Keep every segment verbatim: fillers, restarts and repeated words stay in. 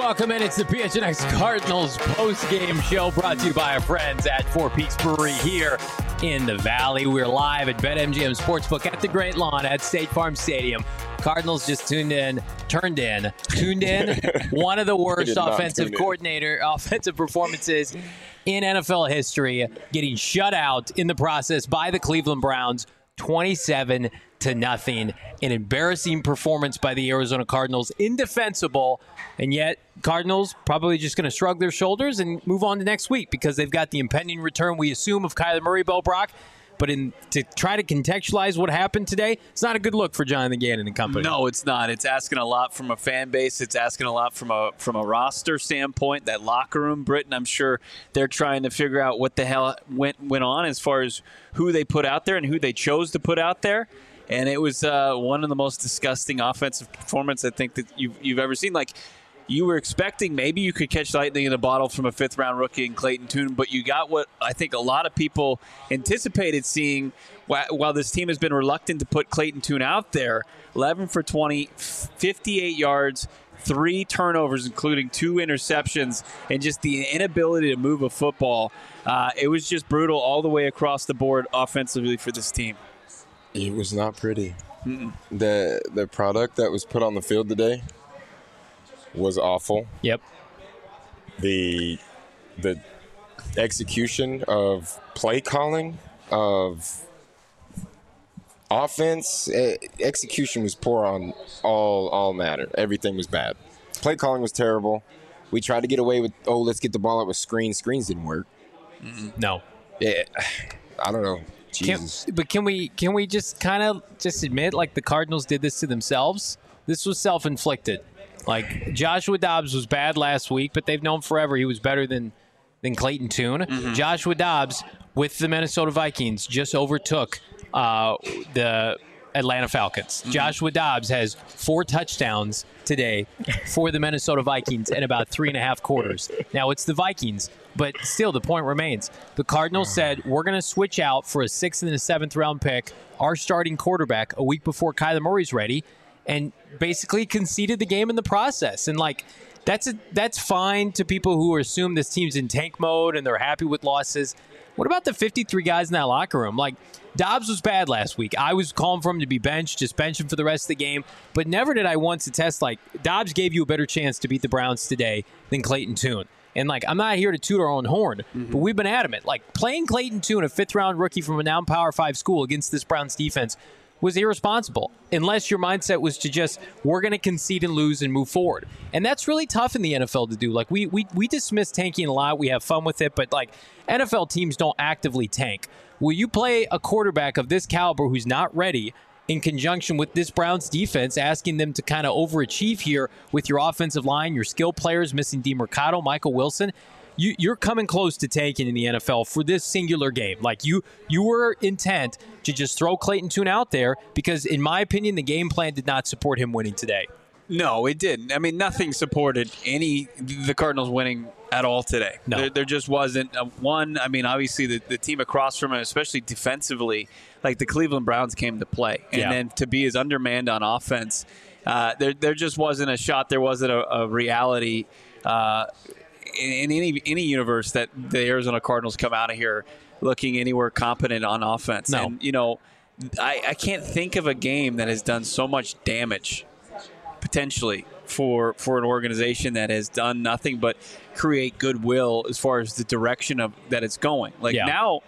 welcome in. It's the P H N X Cardinals post-game show brought to you by our friends at Four Peaks Brewery here in the Valley. We're live at BetMGM Sportsbook at the Great Lawn at State Farm Stadium. Cardinals just tuned in, turned in, tuned in. One of the worst offensive coordinator, offensive performances in N F L history, getting shut out in the process by the Cleveland Browns, twenty-seven to nothing. An embarrassing performance by the Arizona Cardinals, indefensible, and yet Cardinals probably just going to shrug their shoulders and move on to next week because they've got the impending return, we assume, of Kyler Murray, Bo Brock. But in to try to contextualize what happened today, it's not a good look for Jonathan Gannon and company. No, it's not. It's asking a lot from a fan base. It's asking a lot from a from a roster standpoint. That locker room, Britton, I'm sure they're trying to figure out what the hell went went on as far as who they put out there and who they chose to put out there. And it was uh, one of the most disgusting offensive performances I think that you've you've ever seen. Like, you were expecting maybe you could catch lightning in a bottle from a fifth-round rookie in Clayton Tune, but you got what I think a lot of people anticipated seeing while this team has been reluctant to put Clayton Tune out there. eleven for twenty, fifty-eight yards, three turnovers, including two interceptions, and just the inability to move a football. Uh, it was just brutal all the way across the board offensively for this team. It was not pretty. Mm-mm. The the product that was put on the field today was awful. Yep. The the execution of play calling, of offense, eh, execution was poor on all all matter. Everything was bad. Play calling was terrible. We tried to get away with, oh, let's get the ball out with screens. Screens didn't work. Mm-mm. No. Yeah, I don't know. Jesus. Can, but can we can we just kind of just admit, like, the Cardinals did this to themselves? This was self-inflicted. Like, Joshua Dobbs was bad last week, but they've known forever he was better than, than Clayton Tune. Mm-hmm. Joshua Dobbs, with the Minnesota Vikings, just overtook uh, the Atlanta Falcons. Mm-hmm. Joshua Dobbs has four touchdowns today for the Minnesota Vikings in about three and a half quarters. Now, it's the Vikings, but still, the point remains. The Cardinals said, we're going to switch out for a sixth and a seventh round pick, our starting quarterback, a week before Kyler Murray's ready, and basically conceded the game in the process. And, like, that's a, that's fine to people who assume this team's in tank mode and they're happy with losses. What about the fifty-three guys in that locker room? Like, Dobbs was bad last week. I was calling for him to be benched, just bench him for the rest of the game. But never did I once attest, like, Dobbs gave you a better chance to beat the Browns today than Clayton Tune. And, like, I'm not here to toot our own horn, mm-hmm. but we've been adamant. Like, playing Clayton Tune, a fifth-round rookie from a now Power five school, against this Browns defense was irresponsible, unless your mindset was to just, we're going to concede and lose and move forward. And that's really tough in the N F L to do. Like, we we we dismiss tanking a lot. We have fun with it, but, like, N F L teams don't actively tank. Will you play a quarterback of this caliber who's not ready in conjunction with this Browns defense, asking them to kind of overachieve here with your offensive line, your skill players, missing DeMercado, Michael Wilson? You, you're coming close to tanking in the N F L for this singular game. Like, you you were intent to just throw Clayton Tune out there because, in my opinion, the game plan did not support him winning today. No, it didn't. I mean, nothing supported any the Cardinals winning at all today. No. There, there just wasn't a one. I mean, obviously, the, the team across from him, especially defensively, like the Cleveland Browns came to play. And yeah. then to be as undermanned on offense, uh, there there just wasn't a shot. There wasn't a, a reality uh In, in any any universe that the Arizona Cardinals come out of here looking anywhere competent on offense. No. And, you know, I, I can't think of a game that has done so much damage potentially for for an organization that has done nothing but create goodwill as far as the direction of that it's going. Like, yeah. now,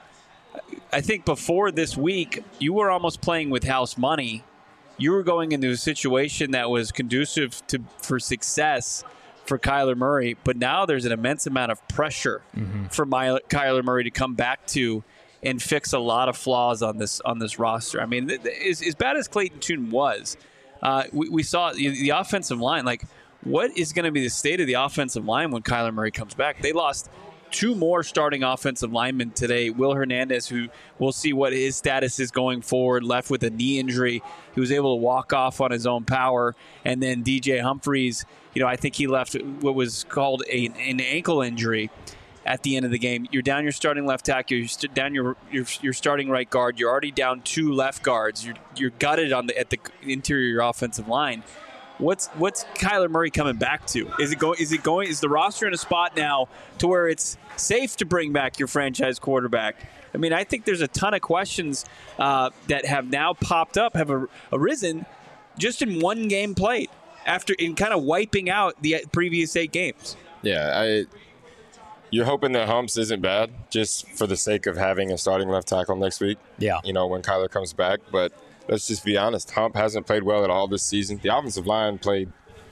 I think before this week, you were almost playing with house money. You were going into a situation that was conducive to for success for Kyler Murray, but now there's an immense amount of pressure mm-hmm. for My, Kyler Murray to come back to and fix a lot of flaws on this on this roster. I mean, th- th- as, as bad as Clayton Tune was, uh, we, we saw the, the offensive line. Like, what is going to be the state of the offensive line when Kyler Murray comes back? They lost two more starting offensive linemen today. Will Hernandez, who we'll see what his status is going forward, left with a knee injury. He was able to walk off on his own power. And then D J Humphries, you know, I think he left what was called a, an ankle injury at the end of the game. You're down your starting left tackle. You're st- down your, your your starting right guard. You're already down two left guards. You're you're gutted on the at the interior of your offensive line. what's what's Kyler Murray coming back to? Is it going? Is it going? Is the roster in a spot now to where it's safe to bring back your franchise quarterback? I mean, I think there's a ton of questions uh, that have now popped up, have ar- arisen just in one game played after in kind of wiping out the previous eight games. Yeah, I. You're hoping that Humps isn't bad just for the sake of having a starting left tackle next week. Yeah. You know, when Kyler comes back. But let's just be honest. Hump hasn't played well at all this season. The offensive line played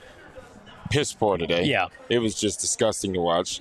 piss poor today. Yeah. It was just disgusting to watch.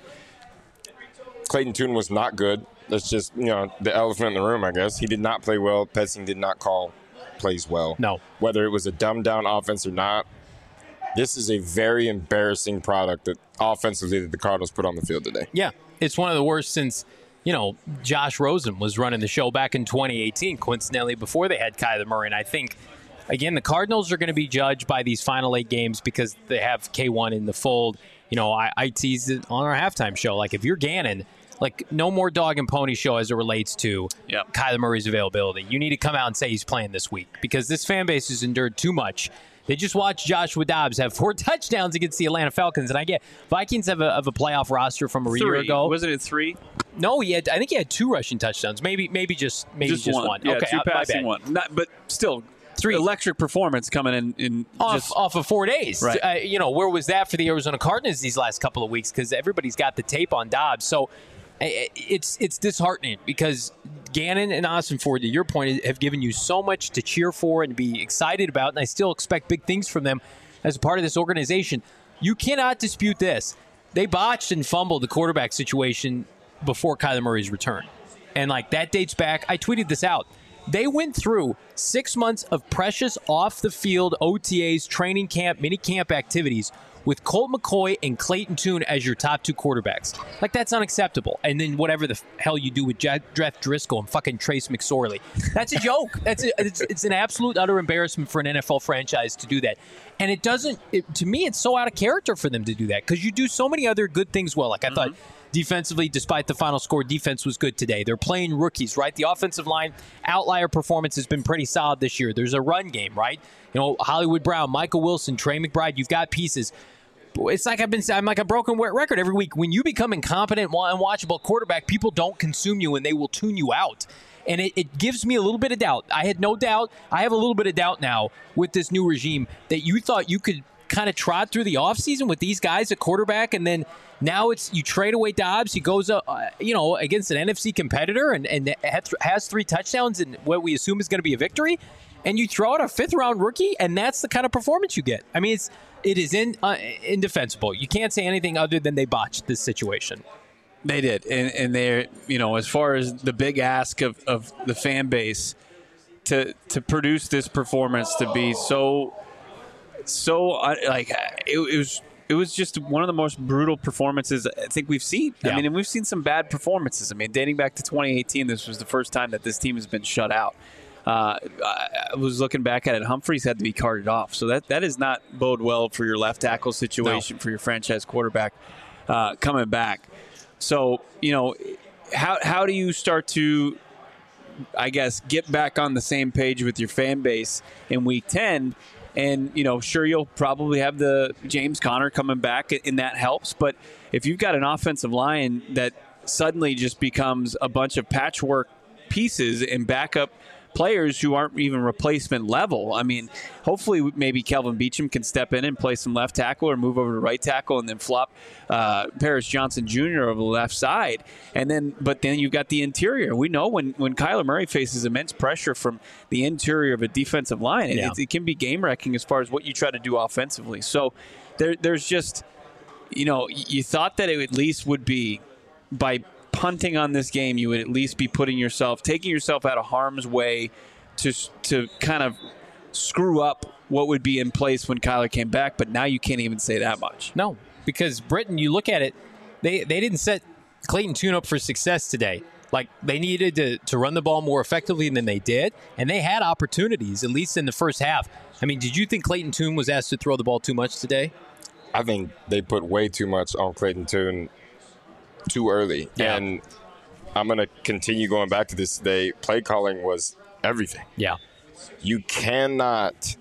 Clayton Tune was not good. That's just, you know, the elephant in the room, I guess. He did not play well. Petsing did not call plays well. No. Whether it was a dumbed-down offense or not, this is a very embarrassing product that offensively that the Cardinals put on the field today. Yeah, it's one of the worst since, you know, Josh Rosen was running the show back in twenty eighteen, coincidentally, before they had Kyler Murray. And I think, again, the Cardinals are going to be judged by these final eight games because they have K one in the fold. You know, I, I teased it on our halftime show. Like, if you're Gannon, like, no more dog and pony show as it relates to yep. Kyler Murray's availability. You need to come out and say he's playing this week because this fan base has endured too much. They just watched Joshua Dobbs have four touchdowns against the Atlanta Falcons, and I get Vikings have a, have a playoff roster from a three. year ago. Wasn't it three? No, he had. I think he had two rushing touchdowns. Maybe, maybe just maybe just, just one. one. Yeah, okay, two uh, passing, one. Not, but still, three electric performance coming in. in off just, off of four days. Right. Uh, you know, where was that for the Arizona Cardinals these last couple of weeks? Because everybody's got the tape on Dobbs. So it's it's disheartening because Gannon and Austin Ford, to your point, have given you so much to cheer for and be excited about, and I still expect big things from them as a part of this organization. You cannot dispute this. They botched and fumbled the quarterback situation before Kyler Murray's return. And, like, that dates back. I tweeted this out. They went through six months of precious off-the-field O T As, training camp, mini camp activities with Colt McCoy and Clayton Tune as your top two quarterbacks. Like, that's unacceptable. And then whatever the hell you do with Jeff Driscoll and fucking Trace McSorley. That's a joke. That's a, it's, it's an absolute utter embarrassment for an N F L franchise to do that. And it doesn't, it, to me, it's so out of character for them to do that because you do so many other good things well. Like, I mm-hmm. thought defensively, despite the final score, defense was good today. They're playing rookies, right? The offensive line outlier performance has been pretty solid this year. There's a run game, right? You know, Hollywood Brown, Michael Wilson, Trey McBride, you've got pieces. It's like I've been I'm like a broken record every week. When you become incompetent, unwatchable quarterback, people don't consume you and they will tune you out. And it, it gives me a little bit of doubt. I had no doubt. I have a little bit of doubt now with this new regime that you thought you could kind of trot through the offseason with these guys at quarterback, and then now it's you trade away Dobbs. He goes up, uh, you know, against an N F C competitor and, and has three touchdowns and what we assume is going to be a victory. And you throw out a fifth-round rookie, and that's the kind of performance you get. I mean, it's it is in, uh, indefensible. You can't say anything other than they botched this situation. They did, and and they're you know as far as the big ask of, of the fan base to to produce this performance to be so so uh, like it, it was. It was just one of the most brutal performances I think we've seen. Yeah. I mean, and we've seen some bad performances. I mean, dating back to twenty eighteen, this was the first time that this team has been shut out. Uh, I was looking back at it. Humphreys had to be carted off. So that, that does not bode well for your left tackle situation, no. for your franchise quarterback uh, coming back. So, you know, how how do you start to, I guess, get back on the same page with your fan base in week ten? And, you know, sure, you'll probably have the James Conner coming back, and that helps. But if you've got an offensive line that suddenly just becomes a bunch of patchwork pieces and backup players who aren't even replacement level. I mean, hopefully maybe Kelvin Beachum can step in and play some left tackle or move over to right tackle and then flop uh, Paris Johnson Junior over the left side. And then, but then you've got the interior. We know when, when Kyler Murray faces immense pressure from the interior of a defensive line, yeah. it, it can be game-wrecking as far as what you try to do offensively. So there, there's just, you know, you thought that it at least would be by punting on this game, you would at least be putting yourself, taking yourself out of harm's way to to kind of screw up what would be in place when Kyler came back. But now you can't even say that much. No, because Britain, you look at it, they they didn't set Clayton Tune up for success today. Like, they needed to, to run the ball more effectively than they did, and they had opportunities, at least in the first half. I mean, did you think Clayton Tune was asked to throw the ball too much today? I think they put way too much on Clayton Tune too early. Yeah. And I'm going to continue going back to this today. Play calling was everything. Yeah. You cannot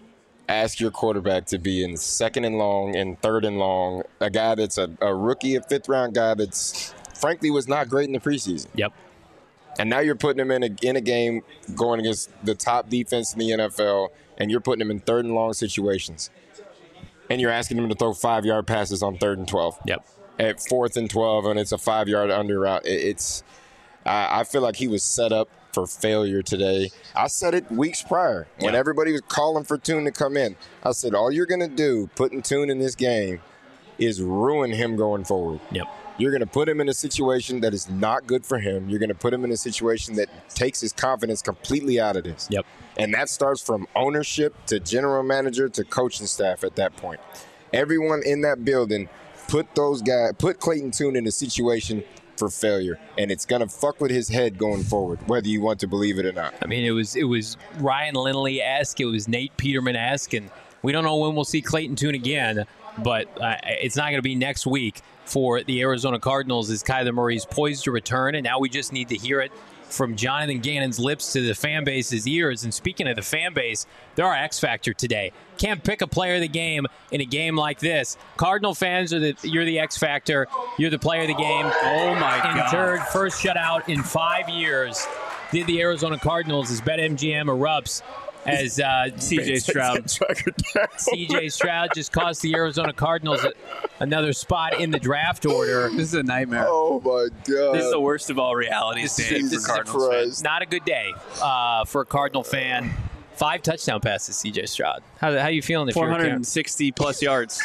ask your quarterback to be in second and long and third and long, a guy that's a, a rookie, a fifth-round guy that's, frankly, was not great in the preseason. Yep. And now you're putting him in a, in a game going against the top defense in the N F L, and you're putting him in third and long situations. And you're asking him to throw five-yard passes on third and twelve. Yep. At fourth and twelve, and it's a five-yard under route. It, it's I, I feel like he was set up for failure today. I said it weeks prior when yeah. everybody was calling for Tune to come in. I said, all you're going to do putting Tune in this game is ruin him going forward. Yep. You're going to put him in a situation that is not good for him. You're going to put him in a situation that takes his confidence completely out of this. Yep. And that starts from ownership to general manager to coaching staff at that point. Everyone in that building put those guys, put Clayton Tune in a situation for failure, and it's gonna fuck with his head going forward, whether you want to believe it or not. I mean, it was it was Ryan Lindley-esque, it was Nate Peterman-esque, and we don't know when we'll see Clayton Tune again, but uh, it's not going to be next week for the Arizona Cardinals as Kyler Murray's poised to return, and now we just need to hear it from Jonathan Gannon's lips to the fan base's ears. And speaking of the fan base, they're our X factor today. Can't pick a player of the game in a game like this. Cardinal fans are the you're the X factor. You're the player of the game. Oh my God! Third first shutout in five years. Did the Arizona Cardinals as BetMGM erupts as uh, C J Stroud. C J Stroud just cost the Arizona Cardinals a, another spot in the draft order. This is a nightmare. Oh my God! This is the worst of all realities. This, day is, for this is Cardinals fans. not a good day uh, for a Cardinal fan. Five touchdown passes, C J Stroud. How how you feeling? If four you're hundred sixty plus yards.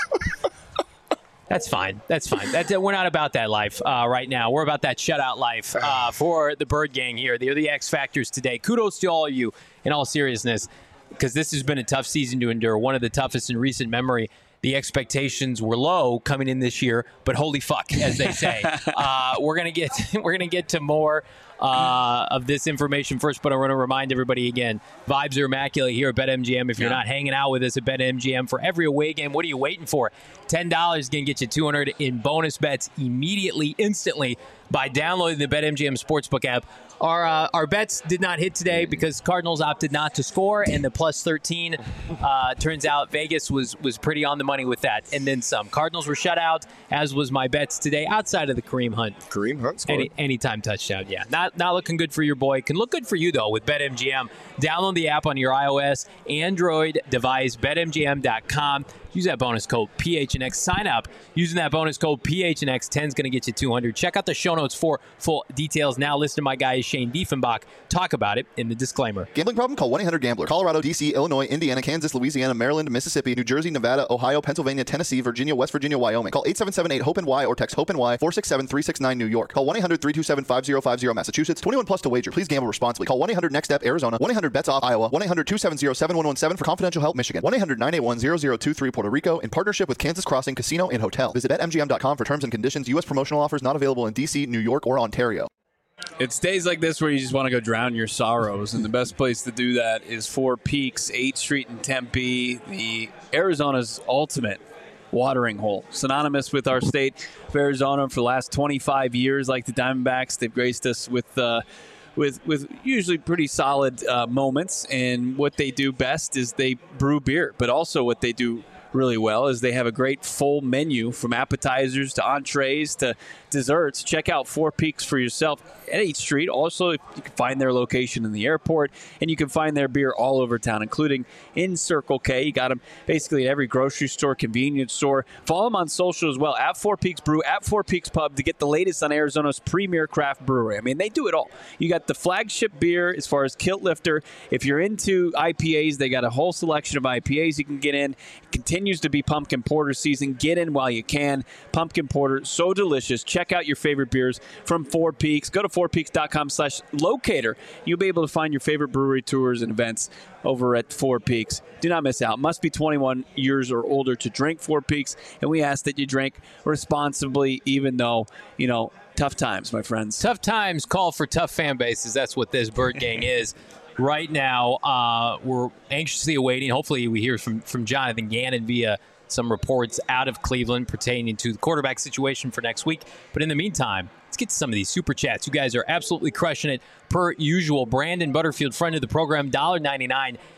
That's fine. That's fine. That, we're not about that life uh, right now. We're about that shutout life uh, for the Bird Gang here. They're the X Factors today. Kudos to all of you in all seriousness, because this has been a tough season to endure, one of the toughest in recent memory. The expectations were low coming in this year, but holy fuck, as they say. uh, we're gonna get we're gonna get to more uh, of this information first, but I want to remind everybody again: vibes are immaculate here at BetMGM. If you're yeah. not hanging out with us at BetMGM for every away game, what are you waiting for? ten dollars is gonna get you two hundred dollars in bonus bets immediately, instantly by downloading the BetMGM Sportsbook app. Our uh, our bets did not hit today because Cardinals opted not to score, and the plus thirteen uh, turns out Vegas was was pretty on the money with that, and then some. Cardinals were shut out, as was my bets today, outside of the Kareem Hunt. Kareem Hunt scored. Any anytime touchdown, yeah. Not not looking good for your boy. Can look good for you though with BetMGM. Download the app on your iOS, Android device. BetMGM dot com. Use that bonus code P H N X. Sign up using that bonus code P H N X. ten is going to get you two hundred. Check out the show notes for full details. Now listen to my guy Shane Diefenbach talk about it in the disclaimer. Gambling problem? Call one eight hundred gambler. Colorado, D C, Illinois, Indiana, Kansas, Louisiana, Maryland, Mississippi, New Jersey, Nevada, Ohio, Pennsylvania, Tennessee, Virginia, West Virginia, Wyoming. Call eight seven seven eight hope N Y or text HOPE-N Y four six seven three six nine New York. Call one eight hundred three two seven five zero five zero Massachusetts. twenty-one plus to wager. Please gamble responsibly. Call one eight hundred next step Arizona. one eight hundred bets off Iowa. one eight hundred two seven zero seven one one seven for confidential help Michigan. one eight hundred nine eight one zero zero two three Puerto Rico in partnership with Kansas Crossing Casino and Hotel. Visit Bet M G M dot com for terms and conditions. U S promotional offers not available in D C, New York, or Ontario. It's days like this where you just want to go drown your sorrows, and the best place to do that is Four Peaks, eighth Street in Tempe, the Arizona's ultimate watering hole. Synonymous with our state of Arizona for the last twenty-five years, like the Diamondbacks. They've graced us with uh, with with usually pretty solid uh, moments, and what they do best is they brew beer, but also what they do really well is they have a great full menu from appetizers to entrees to desserts. Check out Four Peaks for yourself at eighth Street. Also, you can find their location in the airport, and you can find their beer all over town, including in Circle K. You got them basically at every grocery store, convenience store. Follow them on social as well, at Four Peaks Brew, at Four Peaks Pub, to get the latest on Arizona's premier craft brewery. I mean, they do it all. You got the flagship beer as far as Kilt Lifter. If you're into I P As, they got a whole selection of I P As you can get in. It continues to be pumpkin porter season. Get in while you can. Pumpkin porter, so delicious. Check out your favorite beers from Four Peaks. Go to four peaks dot com slash locator. You'll be able to find your favorite brewery tours and events over at Four Peaks. Do not miss out. Must be twenty-one years or older to drink Four Peaks, and we ask that you drink responsibly, even though, you know, tough times, my friends. Tough times call for tough fan bases. That's what this Bird Gang is. Right now, uh, we're anxiously awaiting. Hopefully, we hear from, from Jonathan Gannon via some reports out of Cleveland pertaining to the quarterback situation for next week. But in the meantime, let's get to some of these super chats. You guys are absolutely crushing it per usual. Brandon Butterfield, friend of the program, one dollar ninety-nine.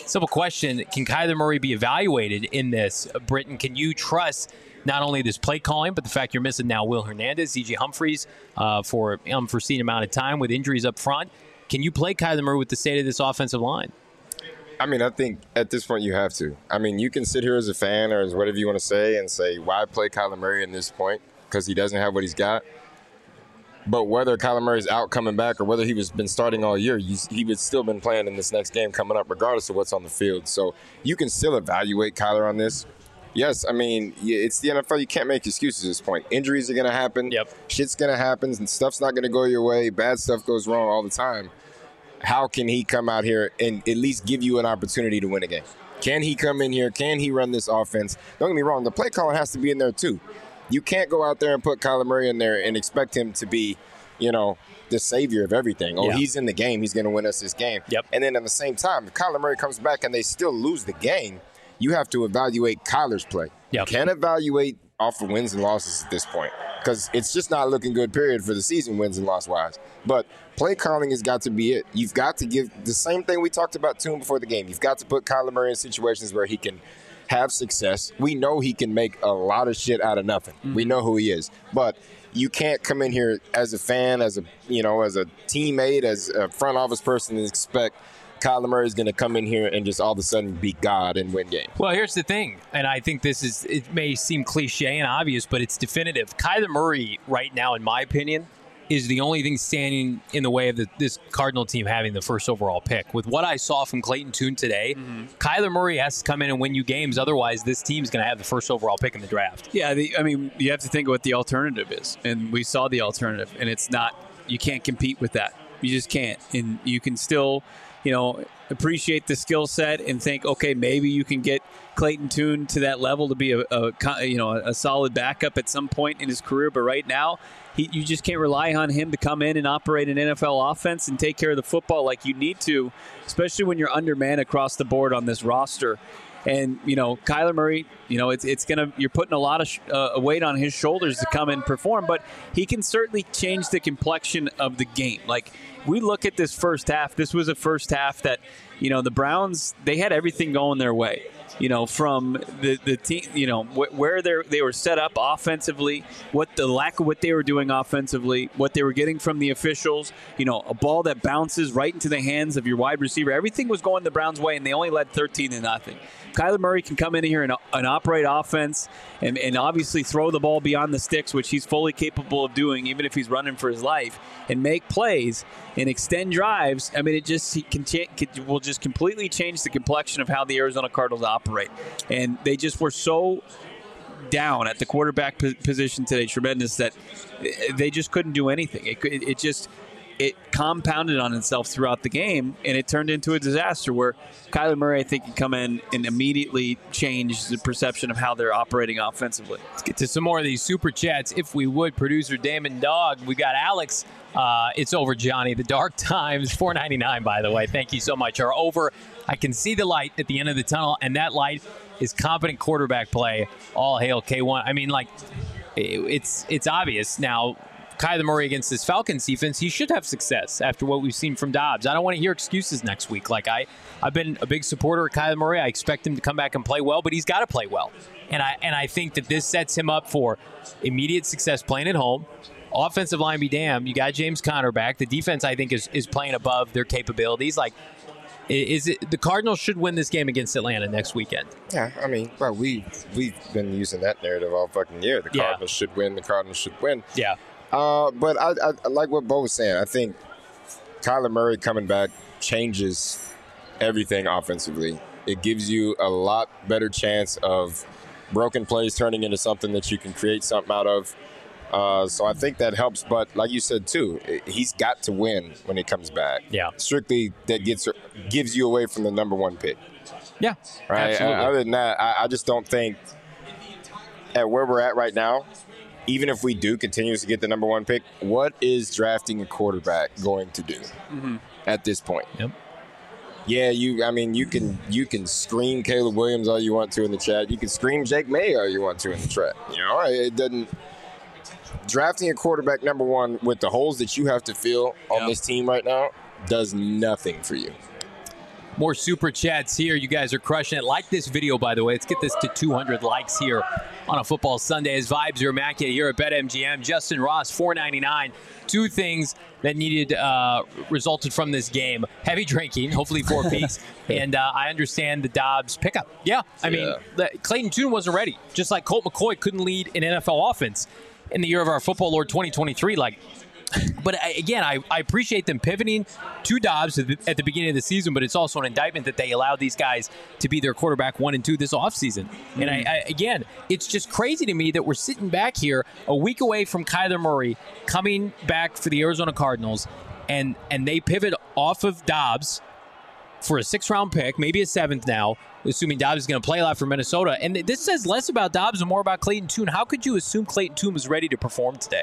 Simple question: can Kyler Murray be evaluated in this? Britton, can you trust not only this play calling, but the fact you're missing now Will Hernandez, Z J Humphries uh, for an unforeseen amount of time with injuries up front? Can you play Kyler Murray with the state of this offensive line? I mean, I think at this point you have to. I mean, you can sit here as a fan or as whatever you want to say and say, why play Kyler Murray in this point? Because he doesn't have what he's got. But whether Kyler Murray's out coming back or whether he was been starting all year, he's, he would still been playing in this next game coming up regardless of what's on the field. So you can still evaluate Kyler on this. Yes, I mean, yeah, it's the N F L. You can't make excuses at this point. Injuries are going to happen. Yep. Shit's going to happen, and stuff's not going to go your way. Bad stuff goes wrong all the time. How can he come out here and at least give you an opportunity to win a game? Can he come in here? Can he run this offense? Don't get me wrong. The play calling has to be in there, too. You can't go out there and put Kyler Murray in there and expect him to be, you know, the savior of everything. Oh, yeah. He's in the game. He's going to win us this game. Yep. And then at the same time, if Kyler Murray comes back and they still lose the game, you have to evaluate Kyler's play. Yep. You can't evaluate off of wins and losses at this point because it's just not looking good, period, for the season, wins and loss-wise. But play calling has got to be it. You've got to give the same thing we talked about to him before the game. You've got to put Kyler Murray in situations where he can have success. We know he can make a lot of shit out of nothing. Mm-hmm. We know who he is. But you can't come in here as a fan, as a you know, as a teammate, as a front office person and expect Kyler Murray is going to come in here and just all of a sudden be God and win games. Well, here's the thing, and I think this is, it may seem cliche and obvious, but it's definitive. Kyler Murray right now, in my opinion, is the only thing standing in the way of the, this Cardinal team having the first overall pick. With what I saw from Clayton Tune today, mm-hmm. Kyler Murray has to come in and win you games. Otherwise, this team's going to have the first overall pick in the draft. Yeah, the, I mean, you have to think of what the alternative is. And we saw the alternative, and it's not, you can't compete with that. You just can't. And you can still, you know, appreciate the skill set and think, okay, maybe you can get Clayton Tune to that level to be a, a you know a solid backup at some point in his career. But right now, he, you just can't rely on him to come in and operate an N F L offense and take care of the football like you need to, especially when you're undermanned across the board on this roster. And, you know, Kyler Murray, you know, it's it's going to, you're putting a lot of sh- uh, weight on his shoulders to come and perform, but he can certainly change the complexion of the game. Like, we look at this first half, this was a first half that, you know, the Browns, they had everything going their way. You know, from the, the team, you know, wh- where they they were set up offensively, what the lack of what they were doing offensively, what they were getting from the officials, you know, a ball that bounces right into the hands of your wide receiver. Everything was going the Browns' way, and they only led thirteen to nothing. Kyler Murray can come in here and, and operate offense and, and obviously throw the ball beyond the sticks, which he's fully capable of doing, even if he's running for his life, and make plays and extend drives. I mean, it just he can, can, will just completely change the complexion of how the Arizona Cardinals operate. And they just were so down at the quarterback position today, tremendous, that they just couldn't do anything. It, it, it just it compounded on itself throughout the game, and it turned into a disaster where Kyler Murray, I think, can come in and immediately change the perception of how they're operating offensively. Let's get to some more of these super chats, if we would. Producer Damon Dog, we got Alex. Uh, it's over, Johnny. The Dark Times, four ninety-nine, by the way. Thank you so much. Are over. I can see the light at the end of the tunnel, and that light is competent quarterback play. All hail K one. I mean, like, it's it's obvious now. Kyler Murray against this Falcons defense, he should have success after what we've seen from Dobbs. I don't want to hear excuses next week. Like, I, I've been a big supporter of Kyler Murray. I expect him to come back and play well, but he's got to play well. And I and I think that this sets him up for immediate success playing at home. Offensive line be damned. You got James Conner back. The defense, I think, is, is playing above their capabilities. Like, is it the Cardinals should win this game against Atlanta next weekend? Yeah, I mean, well, we, we've been using that narrative all fucking year. The Cardinals yeah. should win. The Cardinals should win. Yeah. Uh, but I, I, I like what Bo was saying. I think Kyler Murray coming back changes everything offensively. It gives you a lot better chance of broken plays turning into something that you can create something out of. Uh, so I think that helps. But like you said, too, he's got to win when he comes back. Yeah. Strictly, that gets gives you away from the number one pick. Yeah, right. Absolutely. Other than that, I, I just don't think at where we're at right now, even if we do continue to get the number one pick, what is drafting a quarterback going to do mm-hmm. at this point? Yep. Yeah, you. I mean, you can you can scream Caleb Williams all you want to in the chat. You can scream Jake May all you want to in the chat. You know, it doesn't. Drafting a quarterback number one with the holes that you have to fill on yep. this team right now does nothing for you. more super chats here. You guys are crushing it. Like this video, by the way. Let's get this to two hundred likes here on a football Sunday. As vibes are immaculate here at BetMGM. Justin Ross, four ninety-nine. Two things that needed uh, resulted from this game: heavy drinking, hopefully four peaks, and uh, I understand the Dobbs pickup. Yeah, I Yeah. mean, the, Clayton Tune wasn't ready, just like Colt McCoy couldn't lead an N F L offense in the year of our football Lord twenty twenty-three. Like. But I, again, I, I appreciate them pivoting to Dobbs at the, at the beginning of the season, but it's also an indictment that they allowed these guys to be their quarterback one and two this offseason. Mm-hmm. And I, I, again, it's just crazy to me that we're sitting back here a week away from Kyler Murray coming back for the Arizona Cardinals, and, and they pivot off of Dobbs for a sixth-round pick, maybe a seventh now, assuming Dobbs is going to play a lot for Minnesota. And this says less about Dobbs and more about Clayton Tune. How could you assume Clayton Tune was ready to perform today?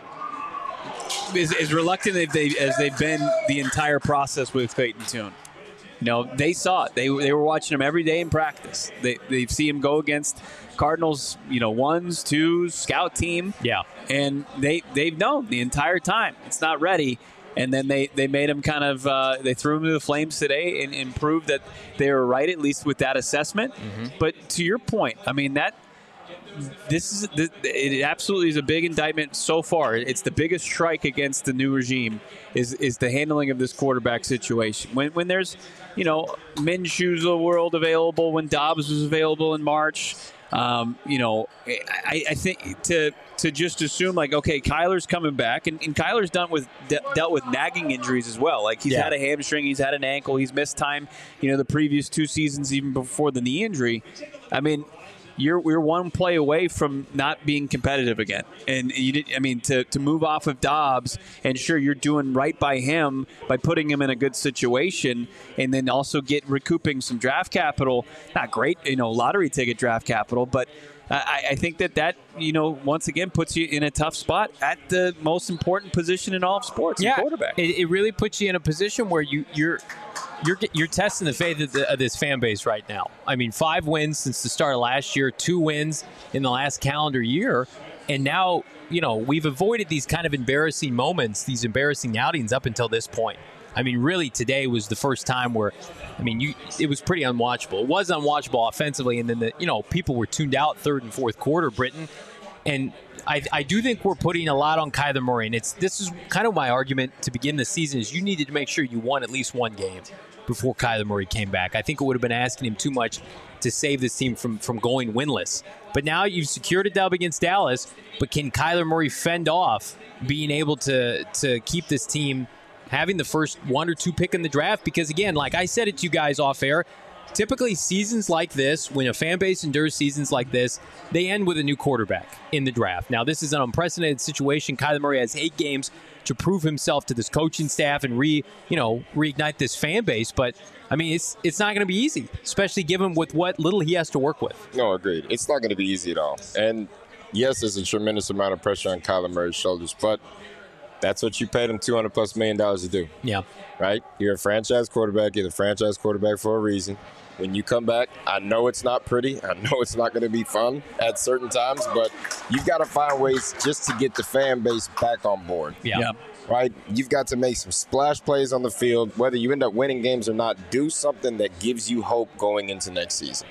As, as reluctant as, they, as they've been the entire process with Clayton Tune. You know, they saw it. They, they were watching him every day in practice. They they see him go against Cardinals, you know, ones, twos, scout team. Yeah. And they, they've known the entire time it's not ready. And then they, they made him kind of, uh, they threw him to the flames today and, and proved that they were right, at least with that assessment. Mm-hmm. But to your point, I mean, that, This is it. Absolutely is a big indictment so far. It's the biggest strike against the new regime is is the handling of this quarterback situation. When when there's, you know, Minshew's world available, when Dobbs was available in March, um, you know, I, I think to to just assume like, okay, Kyler's coming back, and, and Kyler's done with de- dealt with nagging injuries as well. Like he's yeah. had a hamstring, he's had an ankle, he's missed time. You know, the previous two seasons even before the knee injury. I mean. You're we're one play away from not being competitive again, and you did, I mean to to move off of Dobbs, and sure you're doing right by him by putting him in a good situation, and then also get recouping some draft capital. Not great, you know, lottery ticket draft capital, but I, I think that that you know once again puts you in a tough spot at the most important position in all of sports, yeah, quarterback. It, it really puts you in a position where you you're. You're you're testing the faith of, the, of this fan base right now. I mean, five wins since the start of last year, two wins in the last calendar year, and now you know we've avoided these kind of embarrassing moments, these embarrassing outings up until this point. I mean, really, today was the first time where, I mean, you it was pretty unwatchable. It was unwatchable offensively, and then the you know people were tuned out third and fourth quarter, Britain, and. I, I do think we're putting a lot on Kyler Murray, and it's this is kind of my argument to begin the season is you needed to make sure you won at least one game before Kyler Murray came back. I think it would have been asking him too much to save this team from, from going winless. But now you've secured a dub against Dallas, but can Kyler Murray fend off being able to to keep this team having the first one or two pick in the draft? Because, again, like I said it to you guys off air, typically seasons like this, when a fan base endures seasons like this, they end with a new quarterback in the draft. Now, this is an unprecedented situation. Kyler Murray has eight games to prove himself to this coaching staff and re, you know, reignite this fan base. But, I mean, it's it's not going to be easy, especially given with what little he has to work with. No, agreed. It's not going to be easy at all. And, yes, there's a tremendous amount of pressure on Kyler Murray's shoulders, but that's what you paid him two hundred plus million dollars to do. Yeah. Right? You're a franchise quarterback. You're the franchise quarterback for a reason. When you come back, I know it's not pretty. I know it's not going to be fun at certain times, but you've got to find ways just to get the fan base back on board. Yeah. yeah. Right? You've got to make some splash plays on the field. Whether you end up winning games or not, do something that gives you hope going into next season.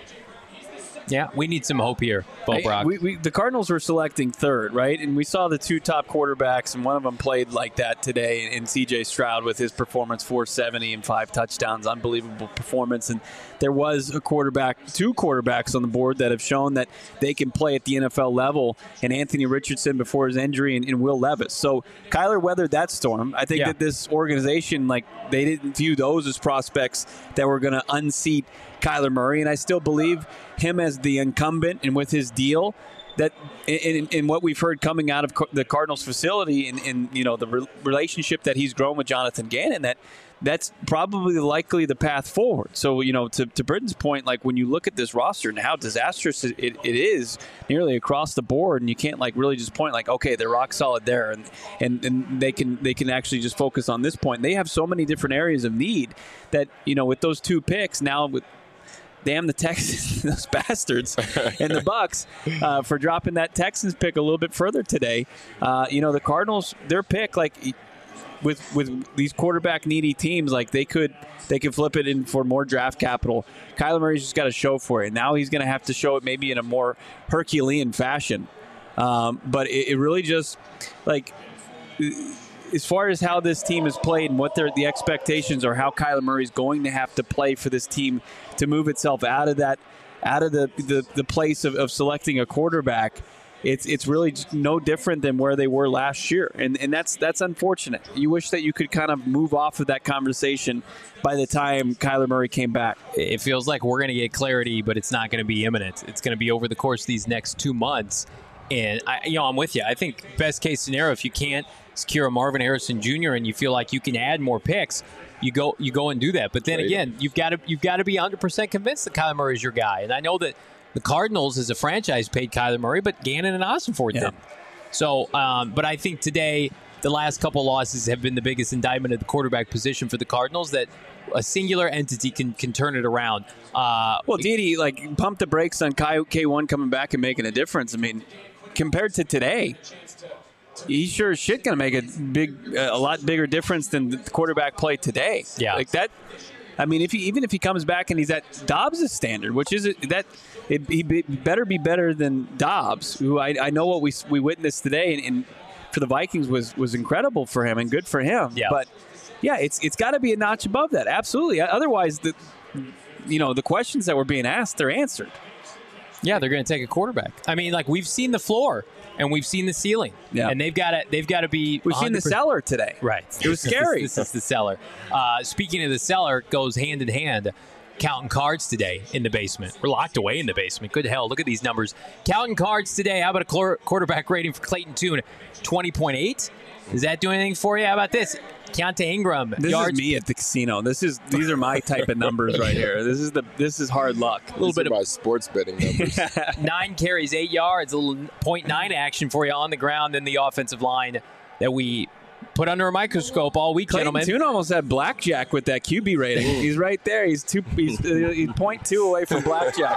Yeah, we need some hope here, Bo Brock. We, we, the Cardinals were selecting third, right? And we saw the two top quarterbacks, and one of them played like that today in C J Stroud with his performance, four seventy and five touchdowns, unbelievable performance. And there was a quarterback, two quarterbacks on the board that have shown that they can play at the N F L level, and Anthony Richardson before his injury and, and Will Levis. So Kyler weathered that storm. I think yeah. that this organization, like, they didn't view those as prospects that were going to unseat Kyler Murray, and I still believe him as the incumbent and with his deal that in, in what we've heard coming out of the Cardinals facility and, and you know the re- relationship that he's grown with Jonathan Gannon, that that's probably likely the path forward. So, you know, to, to Britton's point, like when you look at this roster and how disastrous it, it, it is nearly across the board, and you can't like really just point like, okay, they're rock solid there, and, and, and they can they can actually just focus on this point. They have so many different areas of need that, you know, with those two picks now with damn the Texans, those bastards, and the Bucks uh, for dropping that Texans pick a little bit further today. Uh, you know, the Cardinals, their pick, like with with these quarterback needy teams, like they could they could flip it in for more draft capital. Kyler Murray's just got to show for it. Now he's going to have to show it maybe in a more Herculean fashion. Um, but it, it really just like. As far as how this team has played and what their the expectations are, how Kyler Murray's going to have to play for this team to move itself out of that, out of the the, the place of, of selecting a quarterback, it's it's really no different than where they were last year, and and that's that's unfortunate. You wish that you could kind of move off of that conversation by the time Kyler Murray came back. It feels like we're going to get clarity, but it's not going to be imminent. It's going to be over the course of these next two months. And I, you know, I'm with you. I think best case scenario, if you can't secure a Marvin Harrison Junior and you feel like you can add more picks, you go you go and do that. But then Right. again, you've got to you've got to be one hundred percent convinced that Kyler Murray is your guy. And I know that the Cardinals as a franchise paid Kyler Murray, but Gannon and Ossenfort Yeah. didn't. So, um, but I think today the last couple losses have been the biggest indictment of the quarterback position for the Cardinals, that a singular entity can can turn it around. Uh, Well, Didi, like, pump the brakes on K one coming back and making a difference. I mean, compared to today, he's sure as shit going to make a big, uh, a lot bigger difference than the quarterback play today. Yeah. Like that. I mean, if he even if he comes back and he's at Dobbs' standard, which is that it, he be, better be better than Dobbs, who I, I know what we we witnessed today, and, and for the Vikings was was incredible for him and good for him. Yeah. But yeah, it's it's got to be a notch above that. Absolutely. Otherwise, the you know the questions that were being asked, they're answered. Yeah, they're going to take a quarterback. I mean, like, we've seen the floor and we've seen the ceiling. Yeah. And they've got to they've got to be We've seen the cellar today. Right. It was scary. this, this is the cellar. Uh, speaking of the cellar, it goes hand in hand. Counting cards today in the basement. We're locked away in the basement. Good hell. Look at these numbers. Counting cards today. How about a cor- quarterback rating for Clayton Tune? twenty point eight. Does that do anything for you? How about this? Keontae Ingram. This yards, is me at the casino. This is these are my type of numbers right here. This is the this is hard luck. A little bit of my sports betting numbers. nine carries, eight yards, a little point nine action for you on the ground in the offensive line that we put under a microscope all week, Clayton gentlemen. Tune almost had blackjack with that Q B rating. He's right there. He's two. He's, uh, he's point two away from blackjack.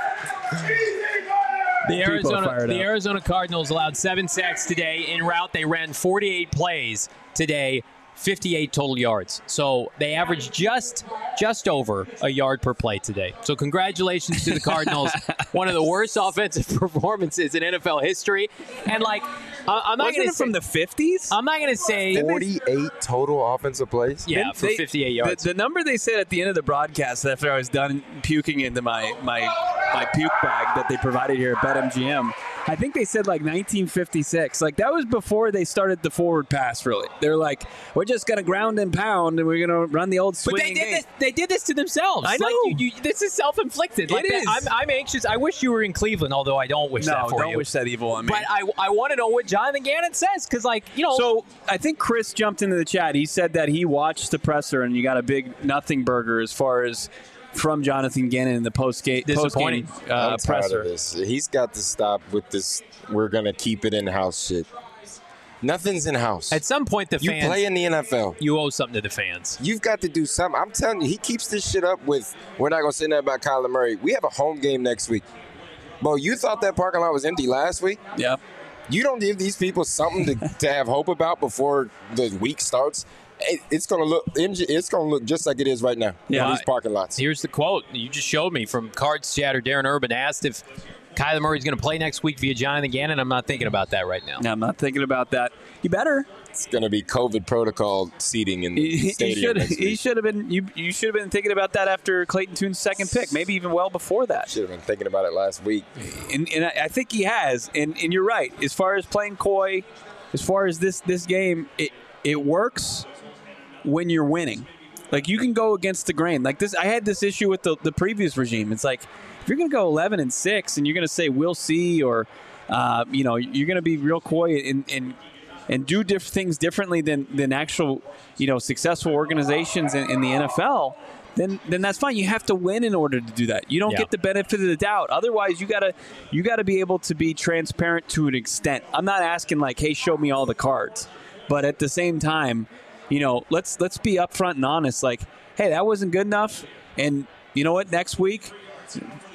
The People are Arizona, fired the up. Arizona Cardinals allowed seven sacks today. En route, they ran forty-eight plays today, fifty-eight total yards. So they averaged just just over a yard per play today. So congratulations to the Cardinals. One of the worst offensive performances in N F L history. And, like, I- I'm not Wasn't going to it from the fifties? I'm not going to say forty-eight total offensive plays? yeah Didn't for they- fifty-eight yards. The, the number they said at the end of the broadcast after I was done puking into my my my puke bag that they provided here at BetMGM, I think they said like nineteen fifty-six. Like that was before they started the forward pass. Really, they're like, we're just gonna ground and pound, and we're gonna run the old But swinging they did game. this. They did this to themselves. I Like, know. you, you, this is self-inflicted. Like It that. is. I'm, I'm anxious. I wish you were in Cleveland, although I don't wish No, that for don't you. wish that evil on me. But I, I want to know what Jonathan Gannon says, because, like, you know. So I think Chris jumped into the chat. He said that he watched the presser and you got a big nothing burger as far as from Jonathan Gannon in the post game Disappointing. uh, I'm tired presser. of this. He's got to stop with this. We're gonna keep it in house shit. Nothing's in house. at some point, the You fans. play in the N F L. you owe something to the fans. You've got to do something. I'm telling you, he keeps this shit up with. We're not gonna say nothing about Kyler Murray. We have a home game next week. Bro, you thought that parking lot was empty last week? Yeah. You don't give these people something to, to have hope about before the week starts. It, it's gonna look. It's gonna look just like it is right now. Yeah. in these parking lots. Here's the quote you just showed me from Cards Chatter. Darren Urban asked if Kyler Murray's going to play next week via Jonathan Gannon. I'm not thinking about that right now. No, I'm not thinking about that. You better. It's gonna be COVID protocol seating in the He, he stadium should. next He week. should have been. You. You should have been thinking about that after Clayton Tune's second pick, maybe even well before that. Should have been thinking about it last week. And, and I I think he has. And, and you're right. As far as playing coy, as far as this this game, it it works when you're winning. Like you can go against the grain. Like this, I had this issue with the, the previous regime. It's like if you're going to go eleven and six, and you're going to say we'll see, or uh, you know, you're going to be real coy and and, and do diff- things differently than than actual, you know, successful organizations in, in the N F L. Then, then that's fine. You have to win in order to do that. You don't Yeah. get the benefit of the doubt. Otherwise, you gotta you gotta be able to be transparent to an extent. I'm not asking like, hey, show me all the cards, but at the same time, you know, let's let's be upfront and honest. Like, hey, that wasn't good enough, and you know what? Next week,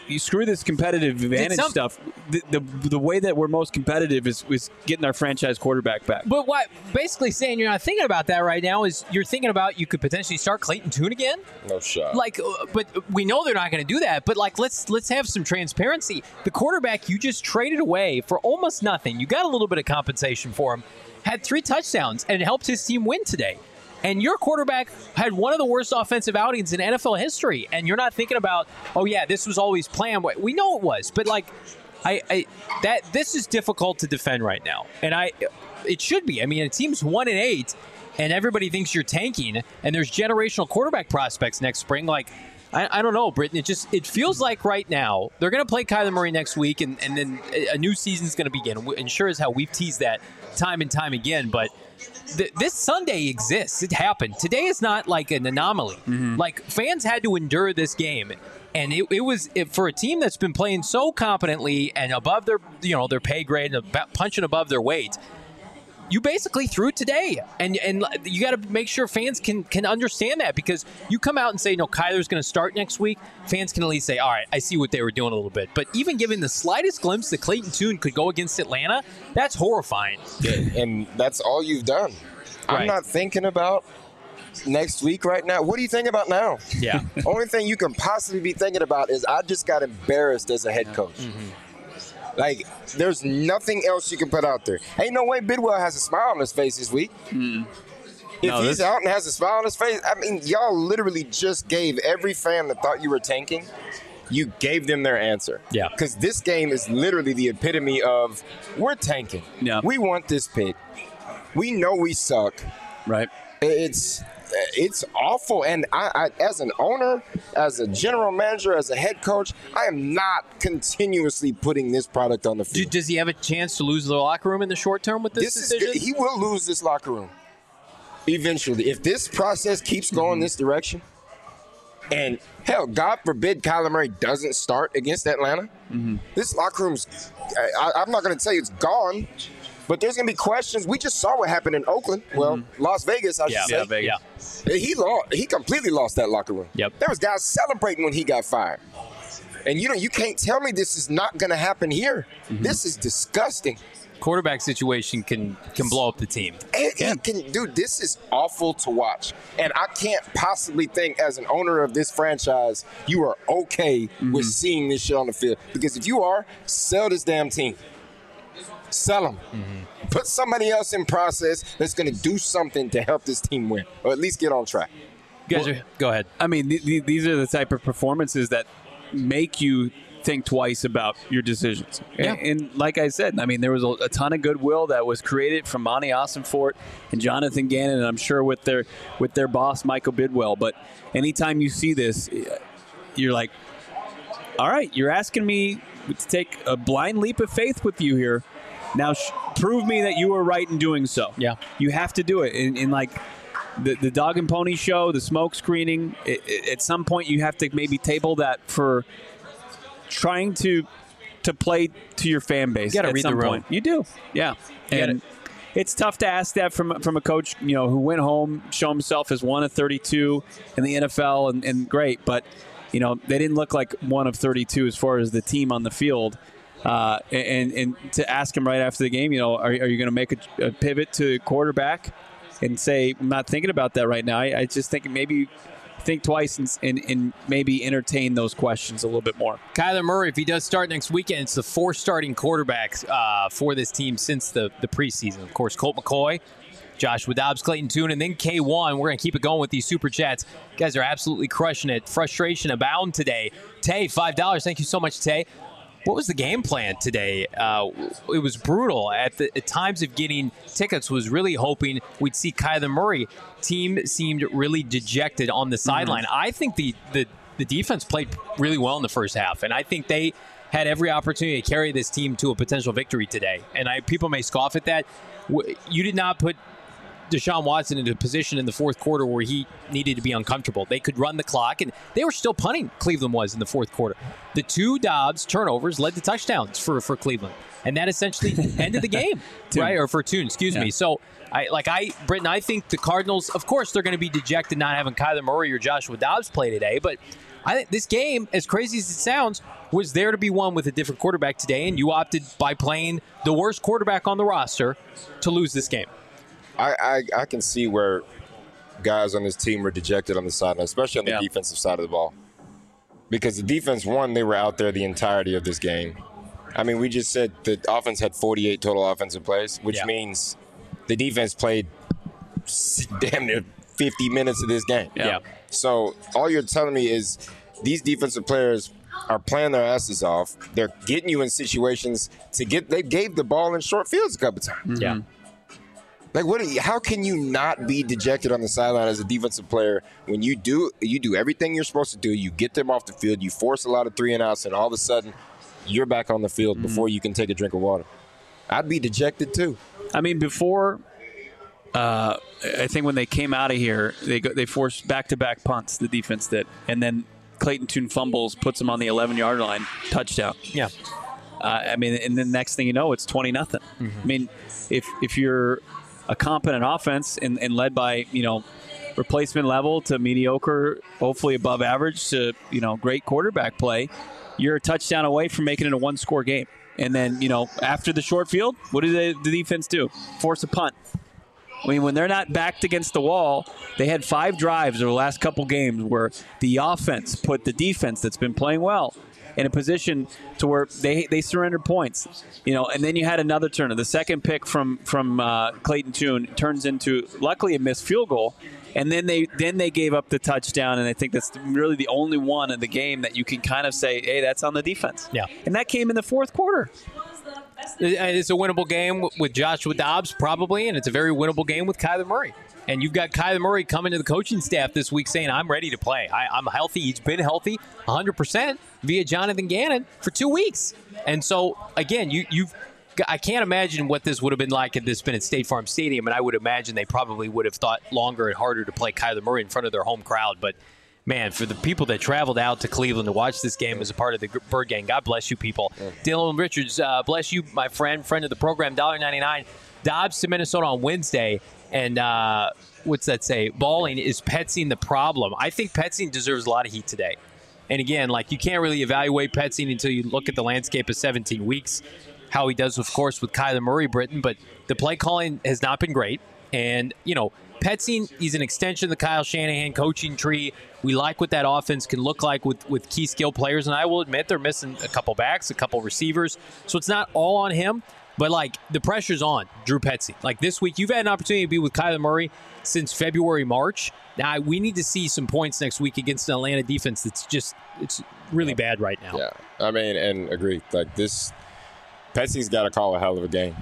you screw this competitive advantage some- stuff. The, the the way that we're most competitive is, is getting our franchise quarterback back. But what basically saying you're not thinking about that right now is you're thinking about you could potentially start Clayton Tune again. No shot. Like, uh, but we know they're not going to do that. But like, let's let's have some transparency. The quarterback you just traded away for almost nothing. You got a little bit of compensation for him. Had three touchdowns and it helped his team win today. And your quarterback had one of the worst offensive outings in N F L history. And you're not thinking about, oh yeah, this was always planned. We know it was, but like, I, I that this is difficult to defend right now. And I, it should be. I mean, a team's one and eight, and everybody thinks you're tanking. And there's generational quarterback prospects next spring. Like, I, I don't know, Britton. It just it feels like right now they're going to play Kyler Murray next week, and, and then a new season's going to begin. And sure as hell, we've teased that time and time again, but. Th- this Sunday exists. It happened. Today is not like an anomaly. Mm-hmm. Like, fans had to endure this game, and it, it was it, for a team that's been playing so competently and above their you know their pay grade and ab- punching above their weight. You basically threw it today, and and you got to make sure fans can can understand that, because you come out and say, no, Kyler's going to start next week, fans can at least say, all right, I see what they were doing a little bit. But even giving the slightest glimpse that Clayton Tune could go against Atlanta, that's horrifying. And that's all you've done. Right. I'm not thinking about next week right now. What do you think about now? Yeah. Only thing you can possibly be thinking about is I just got embarrassed as a head coach. Mm-hmm. Like, there's nothing else you can put out there. Ain't no way Bidwell has a smile on his face this week. Mm. If no, he's this... out and has a smile on his face, I mean, y'all literally just gave every fan that thought you were tanking, you gave them their answer. Yeah. Because this game is literally the epitome of, we're tanking. Yeah. We want this pick. We know we suck. Right. It's it's awful. And I, I, as an owner, as a general manager, as a head coach, I am not continuously putting this product on the field. Does he have a chance to lose the locker room in the short term with this, this decision? Is, he will lose this locker room eventually. If this process keeps going mm-hmm. this direction, and hell, God forbid Kyler Murray doesn't start against Atlanta, mm-hmm. this locker room's, I, I'm not going to tell you it's gone, but there's going to be questions. We just saw what happened in Oakland. Well, mm-hmm. Las Vegas, I yeah, should say. Yeah, Vegas. Yeah. He lost. He completely lost that locker room. Yep. There was guys celebrating when he got fired. And you know, you can't tell me this is not going to happen here. Mm-hmm. This is disgusting. Quarterback situation can can blow up the team. It, yeah. it can, dude, this is awful to watch. And I can't possibly think, as an owner of this franchise, you are okay mm-hmm. with seeing this shit on the field. Because if you are, sell this damn team. Sell them. Mm-hmm. Put somebody else in process that's going to do something to help this team win, or at least get on track. You guys well, are, go ahead. I mean, th- th- these are the type of performances that make you think twice about your decisions. Yeah. And, and like I said, I mean, there was a, a ton of goodwill that was created from Monty Ossenfort and Jonathan Gannon, and I'm sure with their with their boss, Michael Bidwell. But anytime you see this, you're like, all right, you're asking me to take a blind leap of faith with you here. Now, sh- prove me that you were right in doing so. Yeah. You have to do it. In, in like the, the dog and pony show, the smoke screening, it, it, at some point you have to maybe table that for trying to to play to your fan base. You got to read some the room. Point. You do. Yeah. You and gotta, it's tough to ask that from from a coach, you know, who went home, show himself as one of thirty-two in the N F L, and, and great. But, you know, they didn't look like one of thirty-two as far as the team on the field. Uh, and and to ask him right after the game, you know, are, are you going to make a, a pivot to quarterback and say, I'm not thinking about that right now. I, I just think maybe think twice and, and, and maybe entertain those questions a little bit more. Kyler Murray, if he does start next weekend, it's the fourth starting quarterback uh, for this team since the, the preseason. Of course, Colt McCoy, Joshua Dobbs, Clayton Tune, and then K one. We're going to keep it going with these Super Chats. You guys are absolutely crushing it. Frustration abound today. Tay, five dollars. Thank you so much, Tay. What was the game plan today? Uh, it was brutal. At the at times of getting tickets, was really hoping we'd see Kyler Murray. Team seemed really dejected on the sideline. Mm-hmm. I think the, the, the defense played really well in the first half, and I think they had every opportunity to carry this team to a potential victory today. And I, people may scoff at that. You did not put Deshaun Watson into a position in the fourth quarter where he needed to be uncomfortable. They could run the clock, and they were still punting, Cleveland was, in the fourth quarter. The two Dobbs turnovers led to touchdowns for, for Cleveland, and that essentially ended the game, right? Or for Tune, excuse yeah. me. So, I like I, Britton, I think the Cardinals, of course, they're going to be dejected not having Kyler Murray or Joshua Dobbs play today, but I think this game, as crazy as it sounds, was there to be won with a different quarterback today, and you opted by playing the worst quarterback on the roster to lose this game. I, I, I can see where guys on this team were dejected on the sideline, especially on the yeah. defensive side of the ball. Because the defense, one, they were out there the entirety of this game. I mean, we just said the offense had forty-eight total offensive plays, which yeah. means the defense played damn near fifty minutes of this game. Yeah. yeah. So all you're telling me is these defensive players are playing their asses off. They're getting you in situations to get – they gave the ball in short fields a couple times. Yeah. Like, what? You, how can you not be dejected on the sideline as a defensive player when you do you do everything you're supposed to do? You get them off the field, you force a lot of three and outs, and all of a sudden you're back on the field mm-hmm. before you can take a drink of water. I'd be dejected too. I mean, before, uh, I think when they came out of here, they go, they forced back-to-back punts. The defense did, and then Clayton Tune fumbles, puts them on the eleven-yard line, touchdown. Yeah. Uh, I mean, and then next thing you know, it's twenty nothing. Mm-hmm. I mean, if if you're a competent offense and, and led by, you know, replacement level to mediocre, hopefully above average to, you know, great quarterback play, you're a touchdown away from making it a one-score game. And then, you know, after the short field, what do they, the defense do? Force a punt. I mean, when they're not backed against the wall, they had five drives over the last couple games where the offense put the defense that's been playing well in a position to where they they surrendered points, you know. And then you had another turner. The second pick from from uh, Clayton Tune turns into, luckily, a missed field goal, and then they then they gave up the touchdown. And I think that's really the only one in the game that you can kind of say, hey, that's on the defense. Yeah, and that came in the fourth quarter. It's a winnable game with Joshua Dobbs, probably, and it's a very winnable game with Kyler Murray. And you've got Kyler Murray coming to the coaching staff this week saying, I'm ready to play. I, I'm healthy. He's been healthy one hundred percent via Jonathan Gannon for two weeks. And so, again, you, you've I can't imagine what this would have been like had this been at State Farm Stadium, and I would imagine they probably would have thought longer and harder to play Kyler Murray in front of their home crowd. But, man, for the people that traveled out to Cleveland to watch this game as a part of the Bird Gang, God bless you people. Yeah. Dylan Richards, uh, bless you, my friend, friend of the program, one dollar ninety-nine. Dobbs to Minnesota on Wednesday. And uh, what's that say? Balling, is Petzing the problem? I think Petzing deserves a lot of heat today. And again, like, you can't really evaluate Petzing until you look at the landscape of seventeen weeks, how he does, of course, with Kyler Murray, Britton. But the play calling has not been great. And, you know, Petzing, he's an extension of the Kyle Shanahan coaching tree. We like what that offense can look like with, with key skill players. And I will admit they're missing a couple backs, a couple receivers. So it's not all on him. But, like, the pressure's on Drew Petzing. Like, this week, you've had an opportunity to be with Kyler Murray since February, March. Now, we need to see some points next week against an Atlanta defense that's just, it's really bad right now. Yeah, I mean, and agree. Like, this, Petzing's got to call a hell of a game.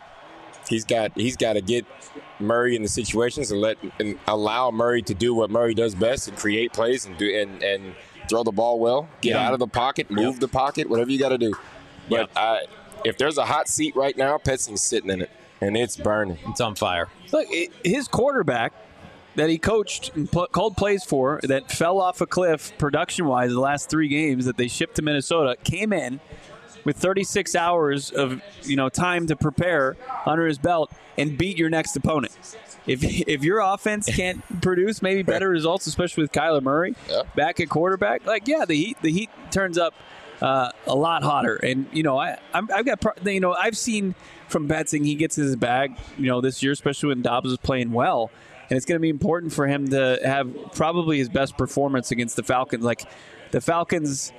He's got he's got to get Murray in the situations and let and allow Murray to do what Murray does best and create plays and do and, and throw the ball well, get yeah. out of the pocket, move yep. the pocket, whatever you got to do. But yep. I, if there's a hot seat right now, Petzing's sitting in it, and it's burning. It's on fire. Look, his quarterback that he coached and pl- called plays for that fell off a cliff production-wise the last three games that they shipped to Minnesota came in with thirty-six hours of, you know, time to prepare under his belt and beat your next opponent. If if your offense can't produce maybe better results, especially with Kyler Murray yeah. back at quarterback, like, yeah, the heat the heat turns up uh, a lot hotter. And, you know, I I'm, I've got you know I've seen from Petzing he gets his bag, you know, this year, especially when Dobbs is playing well. And it's going to be important for him to have probably his best performance against the Falcons. Like, the Falcons,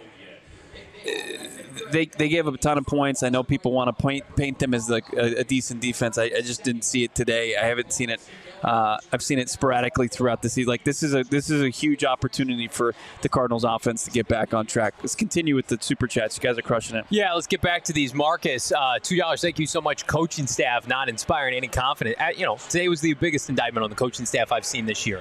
they they gave up a ton of points. I know people want to paint, paint them as like a, a decent defense. I, I just didn't see it today. I haven't seen it. Uh, I've seen it sporadically throughout the season. Like, this is a this is a huge opportunity for the Cardinals offense to get back on track. Let's continue with the super chats. You guys are crushing it. Yeah, let's get back to these. Marcus, uh, two dollars. Thank you so much, coaching staff. Not inspiring any confidence. Uh, you know, today was the biggest indictment on the coaching staff I've seen this year.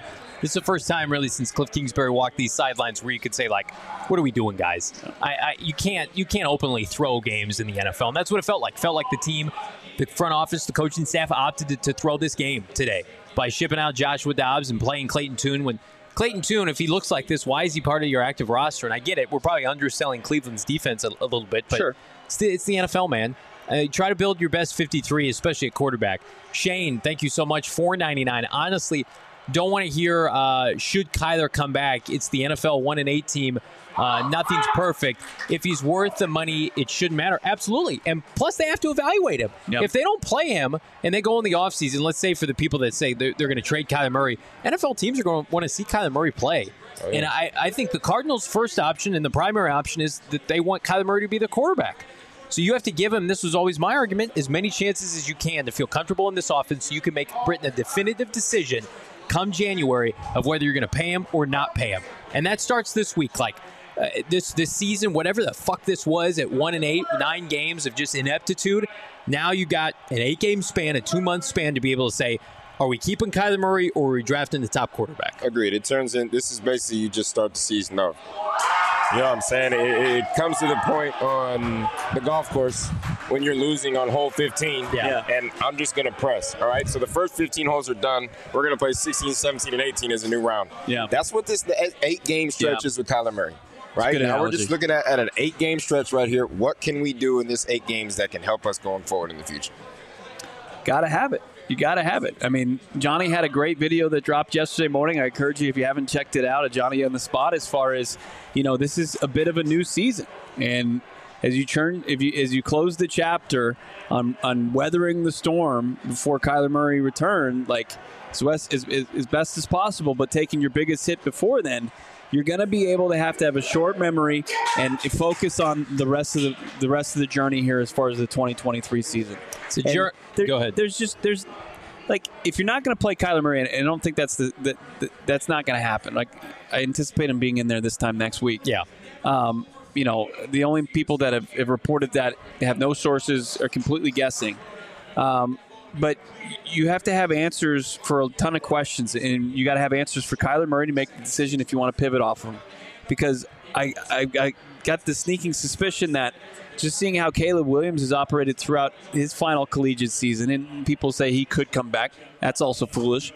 This is the first time really since Cliff Kingsbury walked these sidelines where you could say, like, what are we doing, guys? I, I you can't you can't openly throw games in the N F L, and that's what it felt like. It felt like the team, the front office, the coaching staff opted to, to throw this game today by shipping out Joshua Dobbs and playing Clayton Tune. When Clayton Tune, if he looks like this, why is he part of your active roster? And I get it. We're probably underselling Cleveland's defense a, a little bit, but sure. it's, the, it's the N F L, man. Uh, try to build your best fifty-three, especially at quarterback. Shane, thank you so much. four ninety-nine. Honestly, don't want to hear uh, should Kyler come back. It's the N F L one and eight team. Uh, nothing's perfect. If he's worth the money, it shouldn't matter. Absolutely. And plus, they have to evaluate him. Yep. If they don't play him and they go in the offseason, let's say for the people that say they're, they're going to trade Kyler Murray, N F L teams are going to want to see Kyler Murray play. Oh, yeah. And I, I think the Cardinals' first option and the primary option is that they want Kyler Murray to be the quarterback. So you have to give him, this was always my argument, as many chances as you can to feel comfortable in this offense so you can make Britain a definitive decision come January of whether you're going to pay him or not pay him. And that starts this week. Like, uh, this this season, whatever the fuck this was at one and eight, nine games of just ineptitude, now you got an eight-game span, a two-month span to be able to say, are we keeping Kyler Murray or are we drafting the top quarterback? Agreed. It turns in, this is basically you just start the season off. You know what I'm saying? It, it comes to the point on the golf course when you're losing on hole fifteen, yeah. and I'm just going to press, all right? So the first fifteen holes are done. We're going to play sixteen, seventeen, and eighteen as a new round. Yeah. That's what this the eight-game stretch yeah. is with Kyler Murray, right? Now we're just looking at, at an eight-game stretch right here. What can we do in this eight games that can help us going forward in the future? Got to have it. You got to have it. I mean, Johnny had a great video that dropped yesterday morning. I encourage you, if you haven't checked it out, at Johnny on the Spot, as far as, you know, this is a bit of a new season. And as you turn, if you as you close the chapter on, on weathering the storm before Kyler Murray returned, like, as, as, as best as possible, but taking your biggest hit before then, you're going to be able to have to have a short memory and focus on the rest of the the rest of the journey here as far as the twenty twenty-three season. So jur- there, Go ahead. There's just there's like if you're not going to play Kyler Murray, and I don't think that's the, the, the that's not going to happen. Like I anticipate him being in there this time next week. Yeah. Um, you know, the only people that have, have reported that have no sources are completely guessing. Um, But you have to have answers for a ton of questions, and you got to have answers for Kyler Murray to make the decision if you want to pivot off of him. Because I, I, I got the sneaking suspicion that just seeing how Caleb Williams has operated throughout his final collegiate season, and people say he could come back. That's also foolish.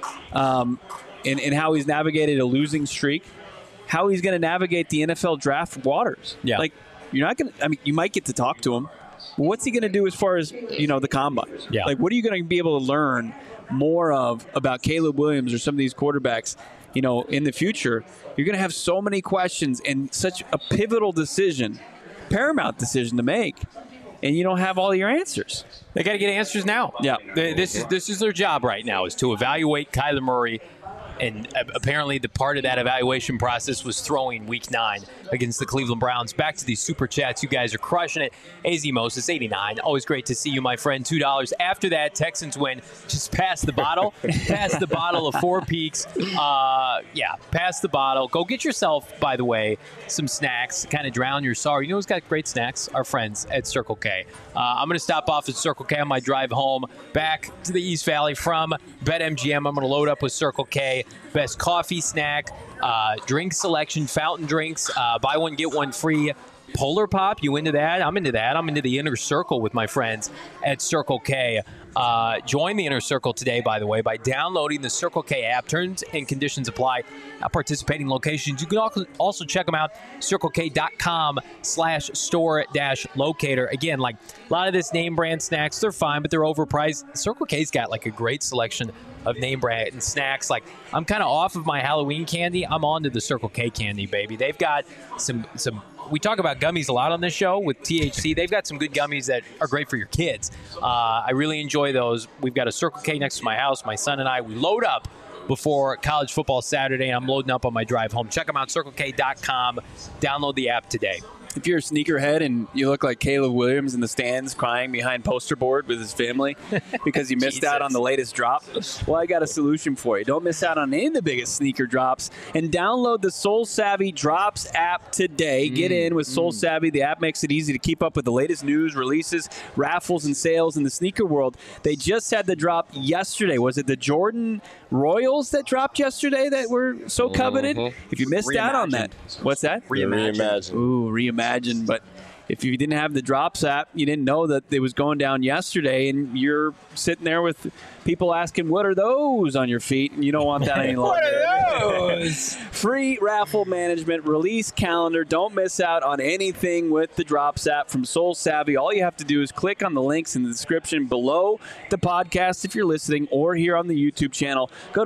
Um, and, and how he's navigated a losing streak, how he's going to navigate the N F L draft waters. Yeah. Like, you're not going to – I mean, you might get to talk to him. Well, what's he going to do as far as, you know, the combine? Yeah. Like, what are you going to be able to learn more of about Caleb Williams or some of these quarterbacks, you know, in the future? You're going to have so many questions and such a pivotal decision, paramount decision to make, and you don't have all your answers. They got to get answers now. Yeah. This is this is their job right now, is to evaluate Kyler Murray. And apparently the part of that evaluation process was throwing week nine against the Cleveland Browns. Back to these super chats. You guys are crushing it. A Z Moses, eighty-nine. Always great to see you, my friend. two dollars. After that, Texans win. Just pass the bottle. Pass the bottle of Four Peaks. Uh, yeah, pass the bottle. Go get yourself, by the way, some snacks. Kind of drown your sorrow. You know who's got great snacks? Our friends at Circle K. Uh, I'm going to stop off at Circle K on my drive home back to the East Valley from BetMGM. I'm going to load up with Circle K. Best coffee, snack, uh, drink selection, fountain drinks, uh, buy one, get one free. Polar Pop, you into that? I'm into that. I'm into the Inner Circle with my friends at Circle K. Uh, join the Inner Circle today, by the way, by downloading the Circle K app. Terms and conditions apply at participating locations. You can also check them out, circlek.com slash store dash locator. Again, like a lot of this name brand snacks, they're fine, but they're overpriced. Circle K's got like a great selection of name brand and snacks. Like, I'm kind of off of my Halloween candy. I'm on to the Circle K candy, baby. They've got some some we talk about gummies a lot on this show with T H C. They've got some good gummies that are great for your kids. Uh, I really enjoy those. We've got a Circle K next to my house. My son and I, we load up before college football Saturday. I'm loading up on my drive home. Check them out, circle k dot com. Download the app today. If you're a sneakerhead and you look like Caleb Williams in the stands crying behind poster board with his family because you missed out on the latest drop, well, I got a solution for you. Don't miss out on any of the biggest sneaker drops and download the Soul Savvy Drops app today. Mm, Get in with Soul mm. Savvy. The app makes it easy to keep up with the latest news, releases, raffles, and sales in the sneaker world. They just had the drop yesterday. Was it the Jordan Royals that dropped yesterday that were so coveted? Mm-hmm. If you missed Reimagined. out on that, what's that? Reimagined. Reimagined. Ooh, reimagined. But if you didn't have the Drops app, you didn't know that it was going down yesterday, and you're sitting there with people asking, what are those on your feet? And you don't want that any longer. What are those? Free raffle management, release calendar. Don't miss out on anything with the Drops app from Soul Savvy. All you have to do is click on the links in the description below the podcast if you're listening, or here on the YouTube channel. Go to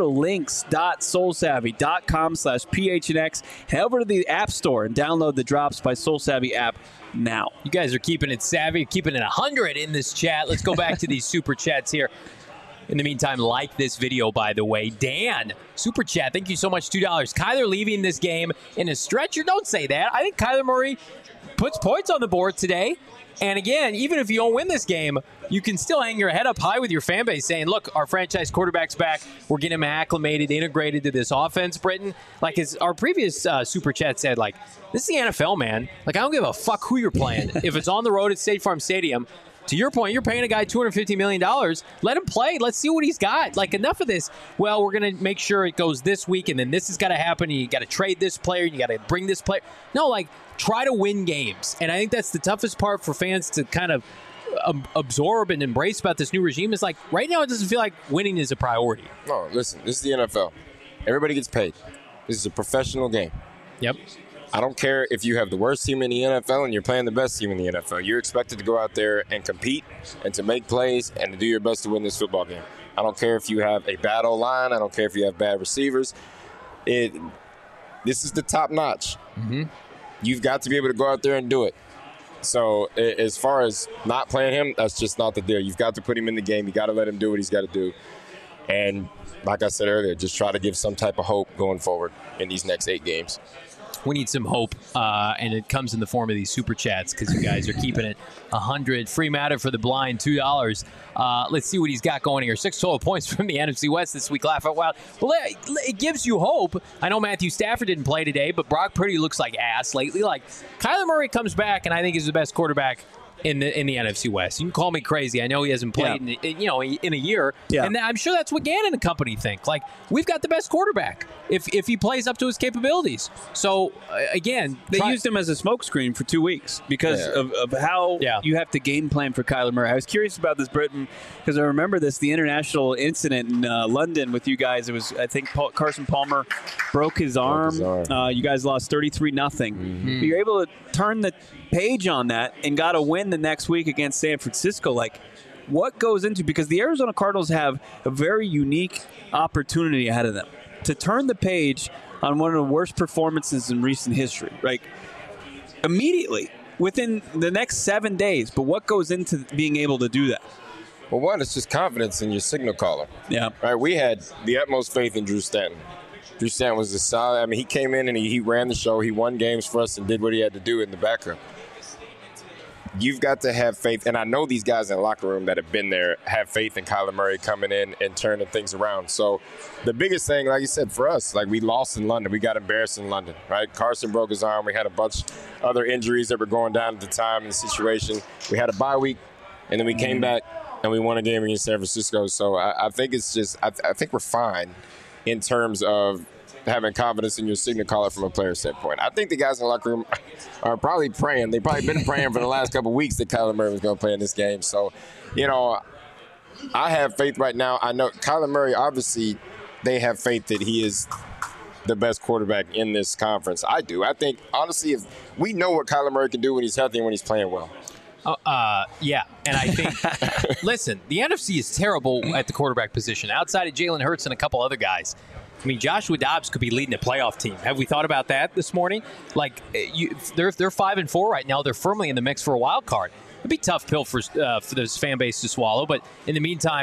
links.soulsavvy.com slash PHNX. Head over to the App Store and download the Drops by Soul Savvy app now. You guys are keeping it savvy, keeping it one hundred in this chat. Let's go back to these super chats here. In the meantime, like this video, by the way. Dan, super chat, thank you so much, two dollars. Kyler leaving this game in a stretcher? Don't say that. I think Kyler Murray puts points on the board today. And again, even if you don't win this game, you can still hang your head up high with your fan base saying, look, our franchise quarterback's back. We're getting him acclimated, integrated to this offense, Britton. Like as our previous uh, super chat said, like, this is the N F L, man. Like, I don't give a fuck who you're playing. If it's on the road at State Farm Stadium, to your point, you're paying a guy two hundred fifty million dollars. Let him play. Let's see what he's got. Like, enough of this. Well, we're going to make sure it goes this week, and then this has got to happen, and you got to trade this player, and you got to bring this player. No, like, try to win games. And I think that's the toughest part for fans to kind of um, absorb and embrace about this new regime is, like, right now it doesn't feel like winning is a priority. No, listen, this is the N F L. Everybody gets paid. This is a professional game. Yep. I don't care if you have the worst team in the N F L and you're playing the best team in the N F L. You're expected to go out there and compete and to make plays and to do your best to win this football game. I don't care if you have a bad O-line. I don't care if you have bad receivers. It. This is the top notch. Mm-hmm. You've got to be able to go out there and do it. So as far as not playing him, that's just not the deal. You've got to put him in the game. You got to let him do what he's got to do. And like I said earlier, just try to give some type of hope going forward in these next eight games. We need some hope, uh, and it comes in the form of these super chats because you guys are keeping it one hundred. Free matter for the blind, two dollars. Uh, let's see what he's got going here. six total points from the N F C West this week. Laugh out loud. Well, it, it gives you hope. I know Matthew Stafford didn't play today, but Brock Purdy looks like ass lately. Like, Kyler Murray comes back, and I think he's the best quarterback in the in the N F C West. You can call me crazy. I know he hasn't played yeah. in, you know in a year, yeah. and I'm sure that's what Gannon and company think. Like, we've got the best quarterback if if he plays up to his capabilities. So uh, again, they try- used him as a smokescreen for two weeks because yeah. of, of how yeah. you have to game plan for Kyler Murray. I was curious about this, Britton, because I remember this the international incident in uh, London with you guys. It was I think Paul, Carson Palmer broke his arm. Broke his arm. Uh, you guys lost thirty-three nothing. Mm-hmm. You're able to turn the page on that and got a win the next week against San Francisco. Like, what goes into, because the Arizona Cardinals have a very unique opportunity ahead of them to turn the page on one of the worst performances in recent history, like immediately within the next seven days. But what goes into being able to do that? Well, one, it's just confidence in your signal caller. Yeah. Right. We had the utmost faith in Drew Stanton. Drew Stanton was a solid. I mean, he came in and he, he ran the show. He won games for us and did what he had to do in the backup. You've got to have faith, and I know these guys in the locker room that have been there have faith in Kyler Murray coming in and turning things around. So the biggest thing, like you said, for us, like we lost in London. We got embarrassed in London, right? Carson broke his arm. We had a bunch of other injuries that were going down at the time in the situation. We had a bye week, and then we came back, and we won a game against San Francisco. So I, I think it's just I, I think we're fine in terms of having confidence in your signal caller from a player standpoint. I think the guys in the locker room are probably praying. They've probably been praying for the last couple of weeks that Kyler Murray was going to play in this game. So, you know, I have faith right now. I know Kyler Murray, obviously, they have faith that he is the best quarterback in this conference. I do. I think, honestly, if we know what Kyler Murray can do when he's healthy and when he's playing well. Uh, uh, yeah, and I think, listen, the N F C is terrible at the quarterback position. Outside of Jalen Hurts and a couple other guys, I mean, Joshua Dobbs could be leading a playoff team. Have we thought about that this morning? Like, you, they're they're five and four right now. They're firmly in the mix for a wild card. It'd be a tough pill for uh, for this fan base to swallow. But in the meantime,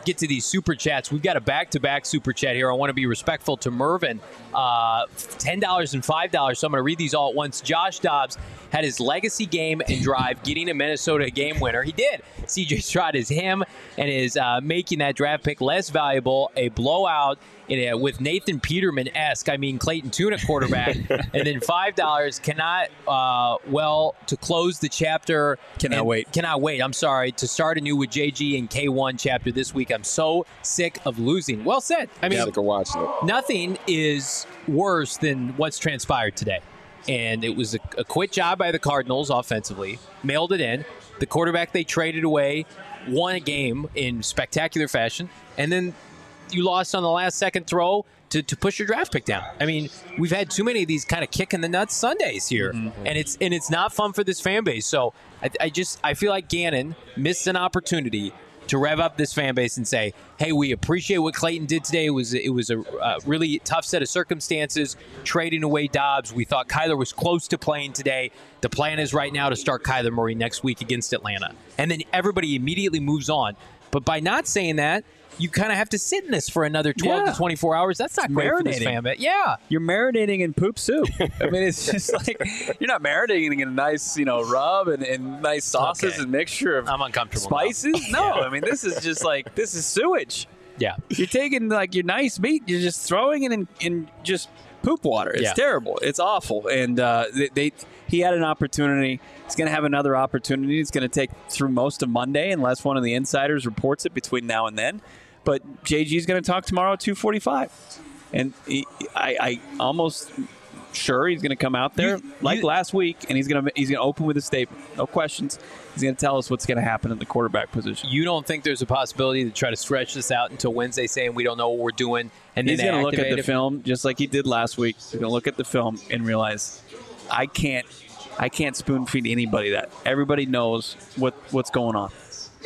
get to these super chats. We've got a back-to-back super chat here. I want to be respectful to Mervin. Uh, ten dollars and five dollars, so I'm going to read these all at once. Josh Dobbs had his legacy game and drive getting a Minnesota game winner. He did. C J Stroud is him and is uh, making that draft pick less valuable. A blowout in a, with Nathan Peterman-esque. I mean, Clayton Tune at quarterback. And then five dollars cannot, uh, well, to close the chapter. Cannot and, wait. Cannot wait. I'm sorry. To start anew with J G and K one chapter this week. I'm so sick of losing. Well said. I mean, Sick of watching it. nothing is worse than what's transpired today. And it was a, a quit job by the Cardinals offensively. Mailed it in. The quarterback they traded away won a game in spectacular fashion. And then you lost on the last second throw to, to push your draft pick down. I mean, we've had too many of these kind of kick in the nuts Sundays here. Mm-hmm. And it's and it's not fun for this fan base. So I, I just I feel like Gannon missed an opportunity to rev up this fan base and say, hey, we appreciate what Clayton did today. It was it was a uh, really tough set of circumstances, trading away Dobbs. We thought Kyler was close to playing today. The plan is right now to start Kyler Murray next week against Atlanta. And then everybody immediately moves on. But by not saying that, you kind of have to sit in this for another twelve yeah. to twenty-four hours. That's not It's great for this marinating. fan base. Yeah. You're marinating in poop soup. I mean, it's just like you're not marinating in a nice, you know, rub and, and nice sauces Okay. and mixture of I'm uncomfortable now. spices. No, I mean, this is just like this is sewage. Yeah. You're taking like your nice meat, you're just throwing it in, in just poop water. It's Yeah. terrible. It's awful. And uh, they, they he had an opportunity. He's going to have another opportunity. It's going to take through most of Monday unless one of the insiders reports it between now and then. But J G's going to talk tomorrow at two forty-five. And he, I, I almost sure he's going to come out there You- like you- last week, and he's going to he's going to open with a statement. No questions. He's going to tell us what's going to happen in the quarterback position. You don't think there's a possibility to try to stretch this out until Wednesday, saying we don't know what we're doing, and He's then going to look at activate the it? film just like he did last week. He's going to look at the film and realize I can't I can't spoon feed anybody that. Everybody knows what what's going on.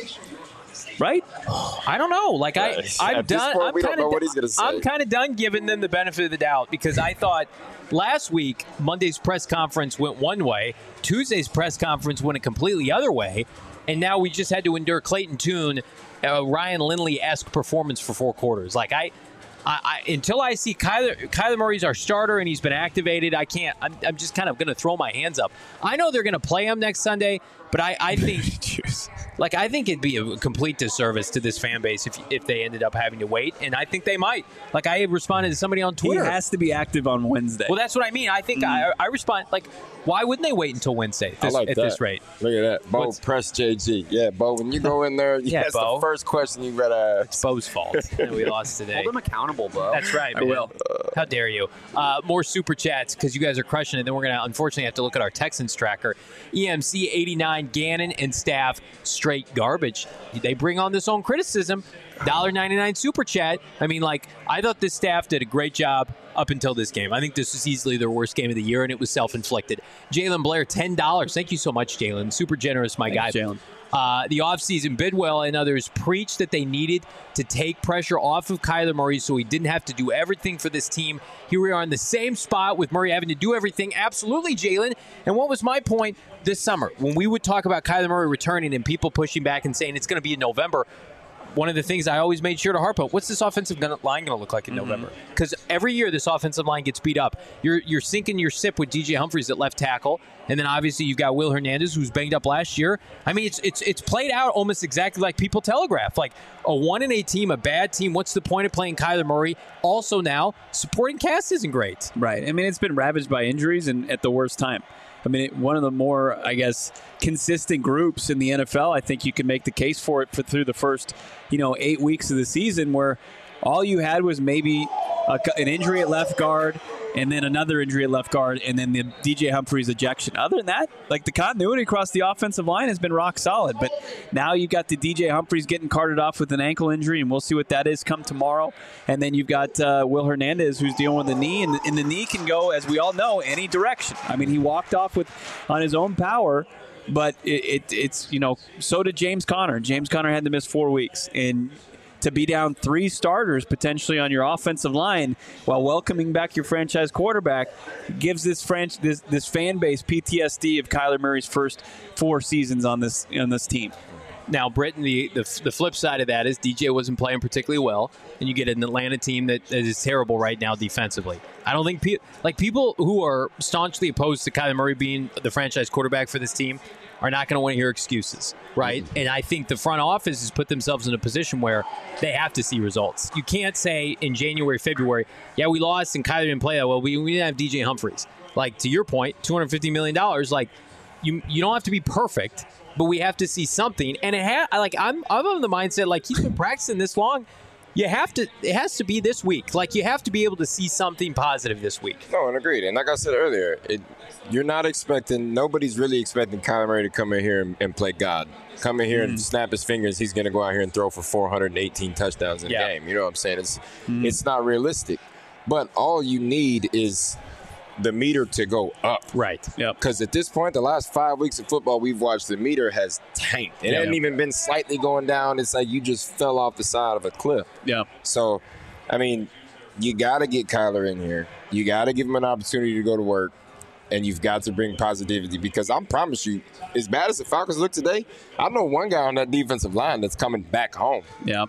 Right? I don't know. Like I, At I'm this done. point, I'm we don't kind know of. what he's gonna say. I'm kind of done giving them the benefit of the doubt because I thought last week Monday's press conference went one way, Tuesday's press conference went a completely other way, and now we just had to endure Clayton Tune, uh, Ryan Lindley-esque performance for four quarters. Like I. I, I, until I see Kyler, Kyler Murray's our starter and he's been activated, I can't. I'm, I'm just kind of going to throw my hands up. I know they're going to play him next Sunday, but I, I think, like, I think it'd be a complete disservice to this fan base if if they ended up having to wait, and I think they might. Like, I responded to somebody on He Twitter. has to be active on Wednesday. Well, that's what I mean. I think I, I respond like, why wouldn't they wait until Wednesday I this, like at that. this rate? Look at that. Bo, What's- press J G. Yeah, Bo, when you go in there, Yeah, that's Bo. the first question you better ask. Bo's fault that we lost today. Hold them accountable, Bo. That's right. I man. will. How dare you? Uh, more super chats because you guys are crushing it. Then we're going to unfortunately have to look at our Texans tracker. E M C eighty-nine, Gannon and staff, straight garbage. They bring on this own criticism. one ninety-nine super chat. I mean, like, I thought this staff did a great job up until this game. I think this was easily their worst game of the year, and it was self-inflicted. Jalen Blair, ten dollars. Thank you so much, Jalen. Super generous, my Thanks, guy. Jalen. Uh, the offseason, Bidwell and others preached that they needed to take pressure off of Kyler Murray so he didn't have to do everything for this team. Here we are in the same spot with Murray having to do everything. Absolutely, Jalen. And what was my point this summer? When we would talk about Kyler Murray returning and people pushing back and saying it's going to be in November, one of the things I always made sure to harp on, what's this offensive line going to look like in mm-hmm. November? Because every year this offensive line gets beat up. You're you're sinking your ship with D J Humphries at left tackle, and then obviously you've got Will Hernandez, who's banged up last year. I mean, it's it's it's played out almost exactly like people telegraph. Like a one and eight team, a bad team. What's the point of playing Kyler Murray? Also now, supporting cast isn't great. Right. I mean, it's been ravaged by injuries and at the worst time. I mean, it, one of the more, I guess, consistent groups in the N F L. I think you can make the case for it for through the first, you know, eight weeks of the season where all you had was maybe a, an injury at left guard and then another injury at left guard and then the D J Humphries ejection. Other than that, like the continuity across the offensive line has been rock solid. But now you've got the D J Humphries getting carted off with an ankle injury, and we'll see what that is come tomorrow. And then you've got uh, Will Hernandez who's dealing with the knee, and the, and the knee can go, as we all know, any direction. I mean, he walked off with on his own power. But it, it, it's, you know, so did James Conner. James Conner had to miss four weeks. And to be down three starters potentially on your offensive line while welcoming back your franchise quarterback gives this French this this fan base P T S D of Kyler Murray's first four seasons on this on this team. Now, Britton, the, the the flip side of that is D J wasn't playing particularly well, and you get an Atlanta team that, that is terrible right now defensively. I don't think pe- like people who are staunchly opposed to Kyler Murray being the franchise quarterback for this team are not going to want to hear excuses, right? Mm-hmm. And I think the front office has put themselves in a position where they have to see results. You can't say in January, February, yeah, we lost and Kyler didn't play that well. We, we didn't have D J Humphries. Like, to your point, two hundred fifty million dollars, like, you you don't have to be perfect, but we have to see something. And it ha- like I'm I'm of the mindset, like, he's been practicing this long. You have to, it has to be this week. Like, you have to be able to see something positive this week. No, and agreed. And like I said earlier, it, you're not expecting, nobody's really expecting Kyler Murray to come in here and, and play God. Come in here mm. and snap his fingers. He's going to go out here and throw for four hundred eighteen touchdowns in yeah. a game. You know what I'm saying? It's mm. it's not realistic. But all you need is the meter to go up. Right. Yeah. Because at this point, the last five weeks of football we've watched, the meter has tanked. It yeah, hasn't yeah. even been slightly going down. It's like you just fell off the side of a cliff. Yeah. So, I mean, you got to get Kyler in here. You got to give him an opportunity to go to work. And you've got to bring positivity, because I promise you, as bad as the Falcons look today, I know one guy on that defensive line that's coming back home. Yeah.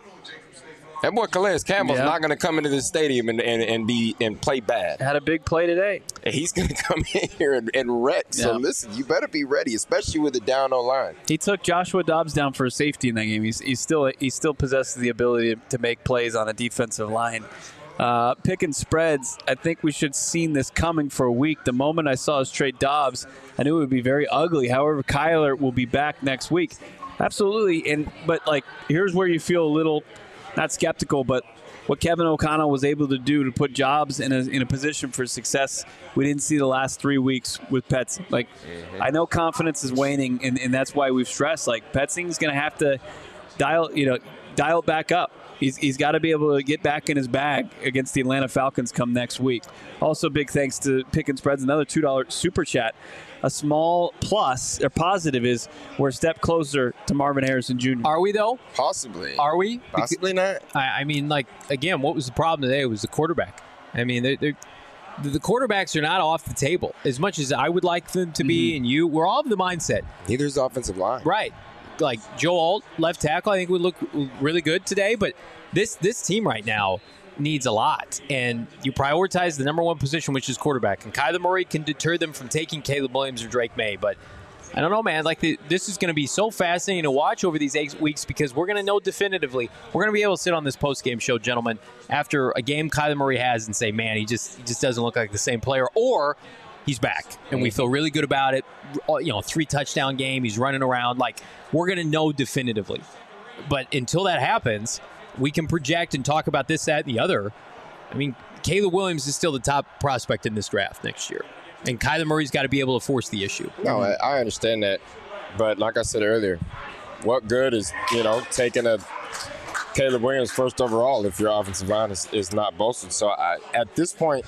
That boy Calais Campbell's yeah. not going to come into this stadium and, and, and be and play bad. Had a big play today. And he's going to come in here and, and wreck. Yeah. So listen, you better be ready, especially with the down O line. He took Joshua Dobbs down for a safety in that game. He's, he's still he still possesses the ability to make plays on a defensive line. Uh, picking spreads, I think we should have seen this coming for a week. The moment I saw us trade Dobbs, I knew it would be very ugly. However, Kyler will be back next week. Absolutely. And but like here's where you feel a little not skeptical, but what Kevin O'Connell was able to do to put Jobs in a, in a position for success, we didn't see the last three weeks with Pets. Like, mm-hmm. I know confidence is waning, and, and that's why we've stressed. Like, Petzing's going to have to dial, you know, dial it back up. He's, he's got to be able to get back in his bag against the Atlanta Falcons come next week. Also, big thanks to Pick and Spreads, another two dollars super chat. A small plus or positive is we're a step closer to Marvin Harrison Junior Are we, though? Possibly. Are we? Possibly not. I, I mean, like, again, what was the problem today? It was the quarterback. I mean, they're, they're, the quarterbacks are not off the table. As much as I would like them to be, mm-hmm. and you, we're all of the mindset. Neither is the offensive line. Right. Like, Joe Alt, left tackle, I think would look really good today. But this this team right now needs a lot. And you prioritize the number one position, which is quarterback. And Kyler Murray can deter them from taking Caleb Williams or Drake May. But I don't know, man. Like, the, this is going to be so fascinating to watch over these eight weeks, because we're going to know definitively. We're going to be able to sit on this post-game show, gentlemen, after a game Kyler Murray has and say, man, he just he just doesn't look like the same player. Or he's back, and we feel really good about it. You know, three-touchdown game. He's running around. Like, we're going to know definitively. But until that happens, we can project and talk about this, that, and the other. I mean, Caleb Williams is still the top prospect in this draft next year. And Kyler Murray's got to be able to force the issue. No, I, I understand that. But like I said earlier, what good is, you know, taking a Caleb Williams first overall if your offensive line is, is not bolstered? So I, at this point,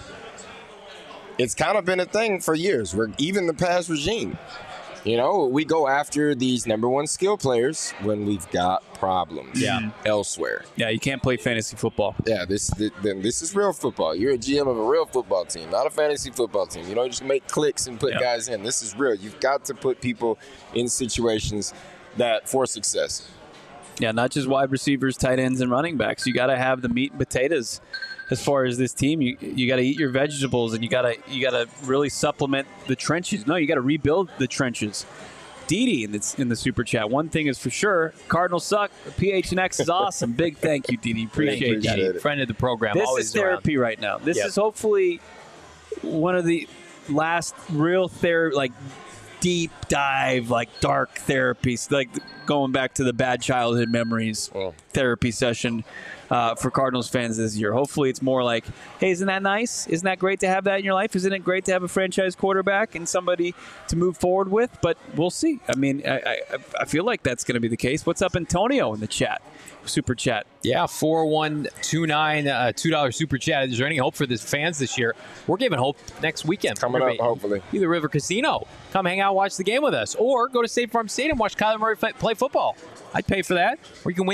it's kind of been a thing for years. Where even the past regime, you know, we go after these number one skill players when we've got problems yeah. elsewhere. Yeah, you can't play fantasy football. Yeah, this then this is real football. You're a G M of a real football team, not a fantasy football team. You don't just make clicks and put yeah. guys in. This is real. You've got to put people in situations that for success. Yeah, not just wide receivers, tight ends, and running backs. You got to have the meat and potatoes. As far as this team, you you got to eat your vegetables, and you got to you got to really supplement the trenches. No, you got to rebuild the trenches. Didi in the, in the super chat. One thing is for sure, Cardinals suck. P H N X is awesome. Big thank you, Didi. Appreciate you. Friend of the program. This always is therapy around. right now. This yep. is hopefully one of the last real therapy, like deep dive, like dark therapies, like going back to the bad childhood memories oh. therapy session. Uh, for Cardinals fans this year. Hopefully it's more like, hey, isn't that nice? Isn't that great to have that in your life? Isn't it great to have a franchise quarterback and somebody to move forward with? But we'll see. I mean, I, I, I feel like that's going to be the case. What's up, Antonio, in the chat? Super chat. Yeah, four one two nine, uh, two dollars super chat. Is there any hope for the fans this year? We're giving hope next weekend. Coming up, hopefully. Either River Casino. Come hang out, watch the game with us. Or go to State Farm Stadium, watch Kyler Murray play football. I'd pay for that. Or you can win tickets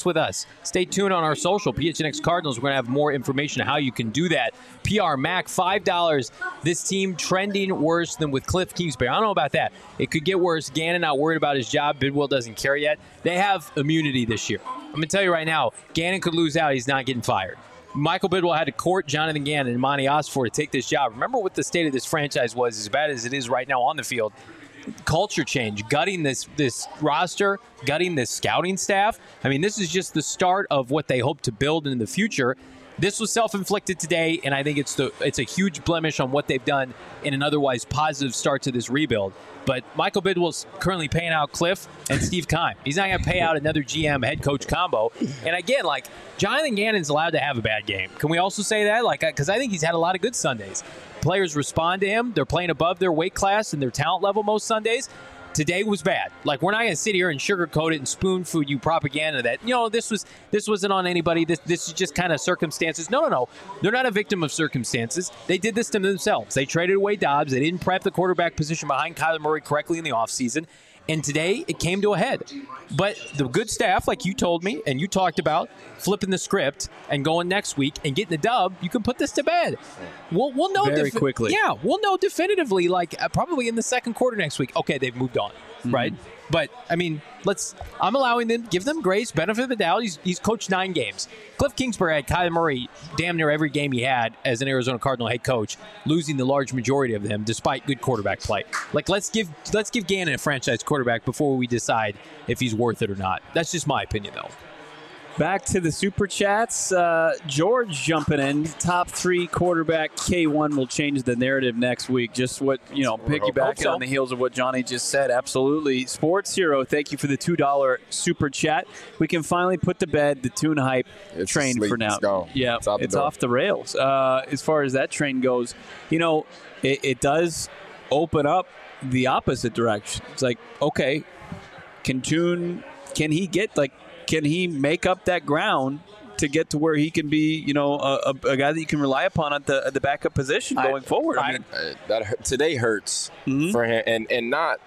with us. Stay tuned on our social, P H N X Cardinals. We're going to have more information on how you can do that. P R Mac, five dollars. This team trending worse than with Cliff Kingsbury. I don't know about that. It could get worse. Gannon not worried about his job. Bidwell doesn't care yet. They have immunity this year. I'm going to tell you right now, Gannon could lose out. He's not getting fired. Michael Bidwell had to court Jonathan Gannon and Monty Osford to take this job. Remember what the state of this franchise was, as bad as it is right now on the field. Culture change, gutting this this roster, gutting this scouting staff. I mean, this is just the start of what they hope to build in the future. This was self-inflicted today, and I think it's the it's a huge blemish on what they've done in an otherwise positive start to this rebuild. But Michael Bidwell's currently paying out Cliff and Steve Keim. He's not going to pay out another G M head coach combo. And again, like, Jonathan Gannon's allowed to have a bad game. Can we also say that? Like, because I think he's had a lot of good Sundays. Players respond to him. They're playing above their weight class and their talent level most Sundays. Today was bad. Like, we're not going to sit here and sugarcoat it and spoon food you propaganda that, you know, this was this wasn't on anybody. This this is just kind of circumstances. No, no, no. They're not a victim of circumstances. They did this to themselves. They traded away Dobbs. They didn't prep the quarterback position behind Kyler Murray correctly in the offseason. And today, it came to a head. But the good staff, like you told me and you talked about, flipping the script and going next week and getting the dub, you can put this to bed. We'll, we'll know very defi- quickly. Yeah, we'll know definitively, like uh, probably in the second quarter next week. Okay, they've moved on, mm-hmm. right? But, I mean, let's. I'm allowing them, give them grace, benefit of the doubt. He's, he's coached nine games. Cliff Kingsbury had Kyler Murray damn near every game he had as an Arizona Cardinal head coach, losing the large majority of them despite good quarterback play. Like, let's give let's give Gannon a franchise quarterback before we decide if he's worth it or not. That's just my opinion, though. Back to the Super Chats. Uh, George jumping in. Top three quarterback K one will change the narrative next week. Just what, you know, piggybacking so. on the heels of what Johnny just said. Absolutely. Sports Hero, thank you for the two dollars Super Chat. We can finally put to bed the tune hype it's train asleep. for now. It's gone. Yeah, it's, off the, it's off the rails. Uh, as far as that train goes, you know, it, it does open up the opposite direction. It's like, okay, can Tune, can he get, like, Can he make up that ground to get to where he can be, you know, a, a, a guy that you can rely upon at the at the backup position going I, forward? I mean, uh, that today hurts mm-hmm. for him, and and not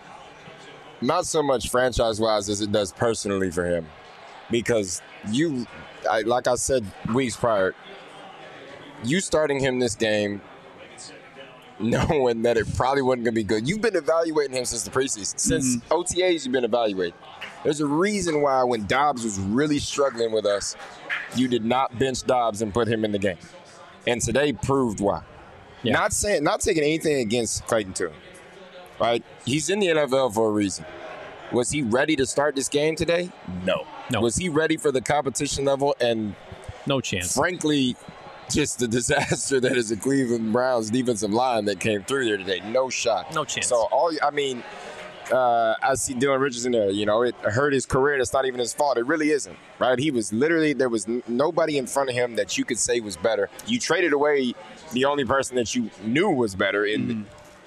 not so much franchise wise as it does personally for him, because you, I, like I said weeks prior, you starting him this game, knowing that it probably wasn't going to be good. You've been evaluating him since the preseason, since mm-hmm. O T As. You've been evaluating. There's a reason why when Dobbs was really struggling with us, you did not bench Dobbs and put him in the game. And today proved why. Yeah. Not saying, not taking anything against Clayton Tune, right? He's in the N F L for a reason. Was he ready to start this game today? No. No. Was he ready for the competition level? And no chance. Frankly, just the disaster that is the Cleveland Browns defensive line that came through there today. No shot. No chance. So all I mean. Uh, I see Dylan Richardson there. You know, it hurt his career. That's not even his fault. It really isn't, right? He was literally, there was n- nobody in front of him that you could say was better. You traded away the only person that you knew was better, in, mm-hmm.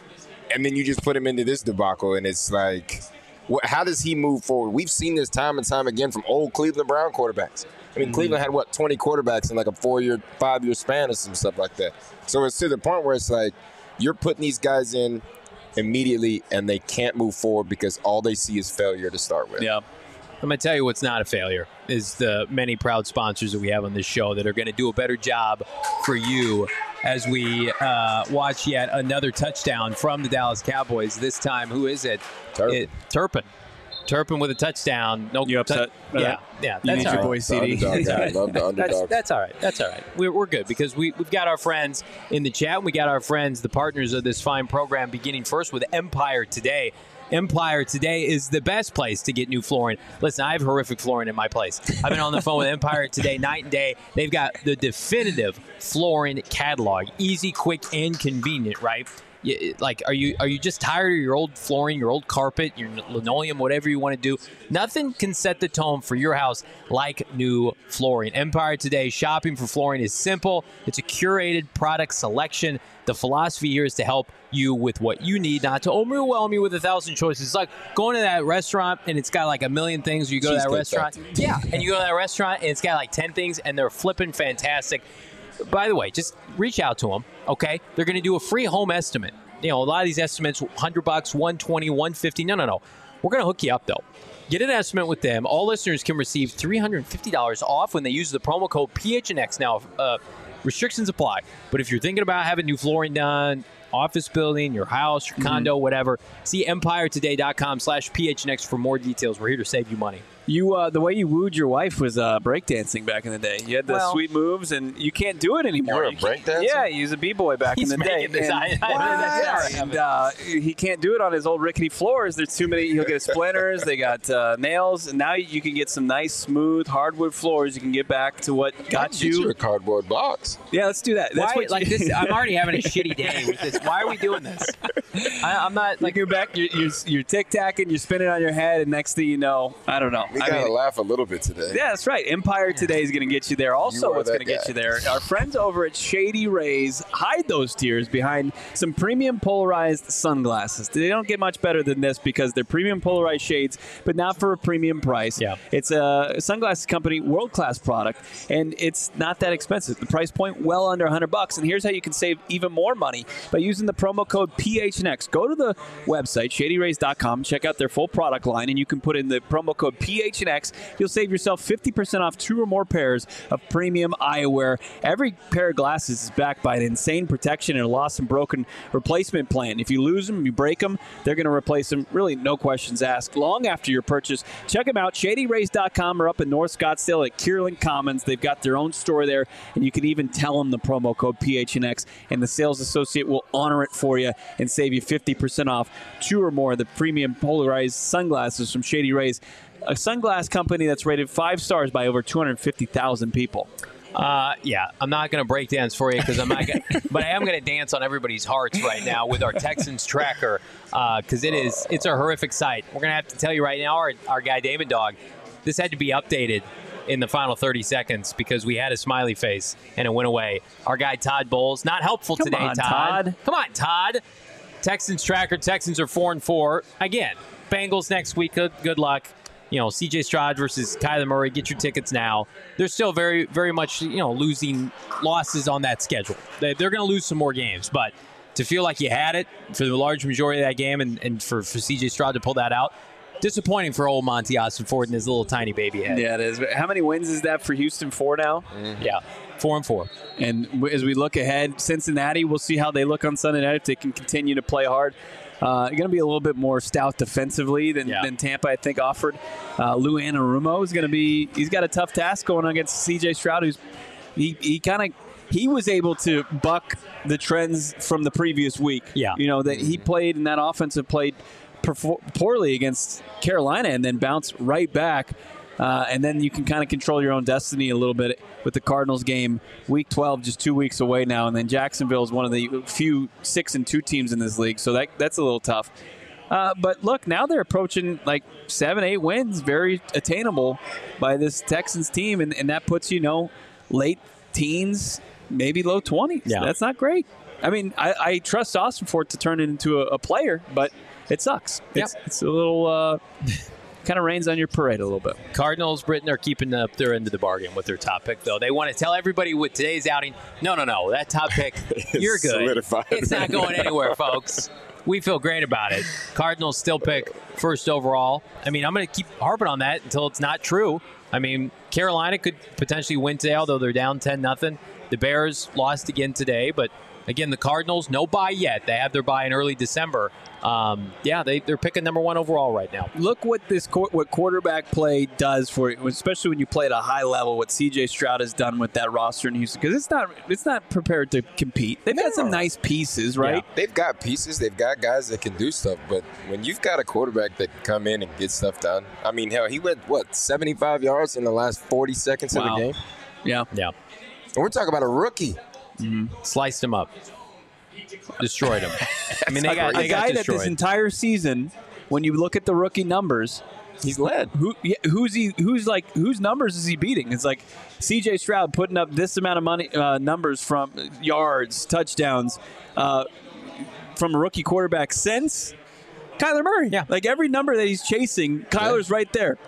and then you just put him into this debacle, and it's like, what, how does he move forward? We've seen this time and time again from old Cleveland Brown quarterbacks. I mean, mm-hmm. Cleveland had, what, twenty quarterbacks in like a four-year, five-year span or some stuff like that. So it's to the point where it's like, you're putting these guys in immediately, and they can't move forward because all they see is failure to start with. Yeah. I'm going to tell you what's not a failure is the many proud sponsors that we have on this show that are going to do a better job for you as we uh, watch yet another touchdown from the Dallas Cowboys. This time, who is it? Turpin. It, Turpin. Turpin with a touchdown. No, you upset? Tu- yeah, yeah. You That's need all your right. boy C D. That's all right. Love the underdog. That's, that's all right. That's all right. We're, we're good because we, we've got our friends in the chat. And we got our friends, the partners of this fine program, beginning first with Empire Today. Empire Today is the best place to get new flooring. Listen, I have horrific flooring in my place. I've been on the phone with Empire Today night and day. They've got the definitive flooring catalog. Easy, quick, and convenient, right? Like, are you are you just tired of your old flooring, your old carpet, your linoleum, whatever you want to do? Nothing can set the tone for your house like new flooring. Empire Today, shopping for flooring is simple. It's a curated product selection. The philosophy here is to help you with what you need, not to overwhelm you with a thousand choices. It's like going to that restaurant and it's got like a million things. Or you go to that restaurant, yeah, and you go to that restaurant and it's got like ten things and they're flipping fantastic. By the way, just reach out to them, okay? They're going to do a free home estimate. You know, a lot of these estimates, one hundred bucks, one twenty, one fifty. No, no, no. We're going to hook you up, though. Get an estimate with them. All listeners can receive three hundred fifty dollars off when they use the promo code P H N X. Now, uh, restrictions apply. But if you're thinking about having new flooring done, office building, your house, your condo, mm-hmm. whatever, see empire today dot com slash P H N X for more details. We're here to save you money. You, uh, the way you wooed your wife was uh, breakdancing back in the day. You had the well, sweet moves, and you can't do it anymore. You were a breakdancer? Yeah, he was a b-boy back He's in the day. This, and, I, I, I, yeah, and uh, he can't do it on his old rickety floors. There's too many. He'll get splinters. They got uh, nails, and now you can get some nice, smooth hardwood floors. You can get back to what got you. you. Get you a cardboard box. Yeah, let's do that. That's Why, what like you, this. I'm already having a shitty day with this. Why are we doing this? I, I'm not like you go back. You're, you're, you're tic-tacking. You're spinning on your head, and next thing you know, I don't know. We I gotta mean, laugh a little bit today. Yeah, that's right. Empire Today is going to get you there. Also, You are what's going that to get guy. you there? Our friends over at Shady Rays hide those tears behind some premium polarized sunglasses. They don't get much better than this because they're premium polarized shades, but not for a premium price. Yeah. It's a sunglasses company, world-class product, and it's not that expensive. The price point well under one hundred bucks. And here's how you can save even more money by using the promo code P H N X. Go to the website, shady rays dot com, check out their full product line, and you can put in the promo code P H N X. You'll save yourself fifty percent off two or more pairs of premium eyewear. Every pair of glasses is backed by an insane protection and a lost and broken replacement plan. If you lose them, you break them, they're going to replace them. Really, no questions asked. Long after your purchase, check them out, shady rays dot com, or up in North Scottsdale at Kierland Commons. They've got their own store there, and you can even tell them the promo code P H N X, and the sales associate will honor it for you and save you fifty percent off two or more of the premium polarized sunglasses from Shady Rays, a sunglass company that's rated five stars by over two hundred fifty thousand people. Uh, yeah, I'm not going to break dance for you because I'm not gonna, but I am going to dance on everybody's hearts right now with our Texans tracker because uh, it is it's a horrific sight. We're going to have to tell you right now, our, our guy Damon Dog, this had to be updated in the final thirty seconds because we had a smiley face and it went away. Our guy Todd Bowles, not helpful Come today, on, Todd. Todd. Come on, Todd. Texans tracker. Texans are four and four again. Bengals next week. Good, good luck. You know, C J Stroud versus Kyler Murray. Get your tickets now. They're still very, very much, you know, losing losses on that schedule. They, they're going to lose some more games, but to feel like you had it for the large majority of that game and, and for, for C J Stroud to pull that out, disappointing for old Monty Ossenford and his little tiny baby head. Yeah, it is. How many wins is that for Houston? Four now? Mm-hmm. Yeah, four and four. And as we look ahead, Cincinnati, we'll see how they look on Sunday night if they can continue to play hard. Uh, going to be a little bit more stout defensively than, yeah. than Tampa, I think, offered. Uh, Lou Anarumo is going to be – he's got a tough task going against C J Stroud, who's he, he kind of – he was able to buck the trends from the previous week. Yeah. You know, that he played and that offensive played perfor- poorly against Carolina and then bounced right back. Uh, and then you can kind of control your own destiny a little bit with the Cardinals game, week twelve, just two weeks away now. And then Jacksonville is one of the few six and two teams in this league, so that that's a little tough. Uh, but look, now they're approaching like seven, eight wins, very attainable by this Texans team, and, and that puts you know late teens, maybe low twenties. Yeah. That's not great. I mean, I, I trust Austin for it to turn it into a, a player, but it sucks. It's, Yep. it's a little. Uh, kind of rains on your parade a little bit. Cardinals, Britain, are keeping up their end of the bargain with their top pick, though. They want to tell everybody with today's outing, no, no, no, that top pick, you're good. Solidified. It's not going anywhere, folks. We feel great about it. Cardinals still pick first overall. I mean, I'm going to keep harping on that until it's not true. I mean, Carolina could potentially win today, although they're down ten nothing. The Bears lost again today, but again, the Cardinals, no bye yet. They have their bye in early December. Um, yeah, they, they're picking number one overall right now. Look what this what quarterback play does for you, especially when you play at a high level. What C J Stroud has done with that roster in Houston, because it's not it's not prepared to compete. They've got some nice pieces, right? Yeah. They've got pieces. They've got guys that can do stuff. But when you've got a quarterback that can come in and get stuff done, I mean, hell, he went, what, seventy-five yards in the last forty seconds Wow. of the game? Yeah. Yeah. And we're talking about a rookie. Mm-hmm. Sliced him up. Destroyed him. I mean, they got, a they got guy that destroyed. this entire season, when you look at the rookie numbers, He's led. who yeah, who's he? Who's like whose numbers is he beating? It's like C J Stroud putting up this amount of money uh, numbers from yards, touchdowns uh, from a rookie quarterback since Kyler Murray. Yeah. Like every number that he's chasing, Kyler's right there. Yeah.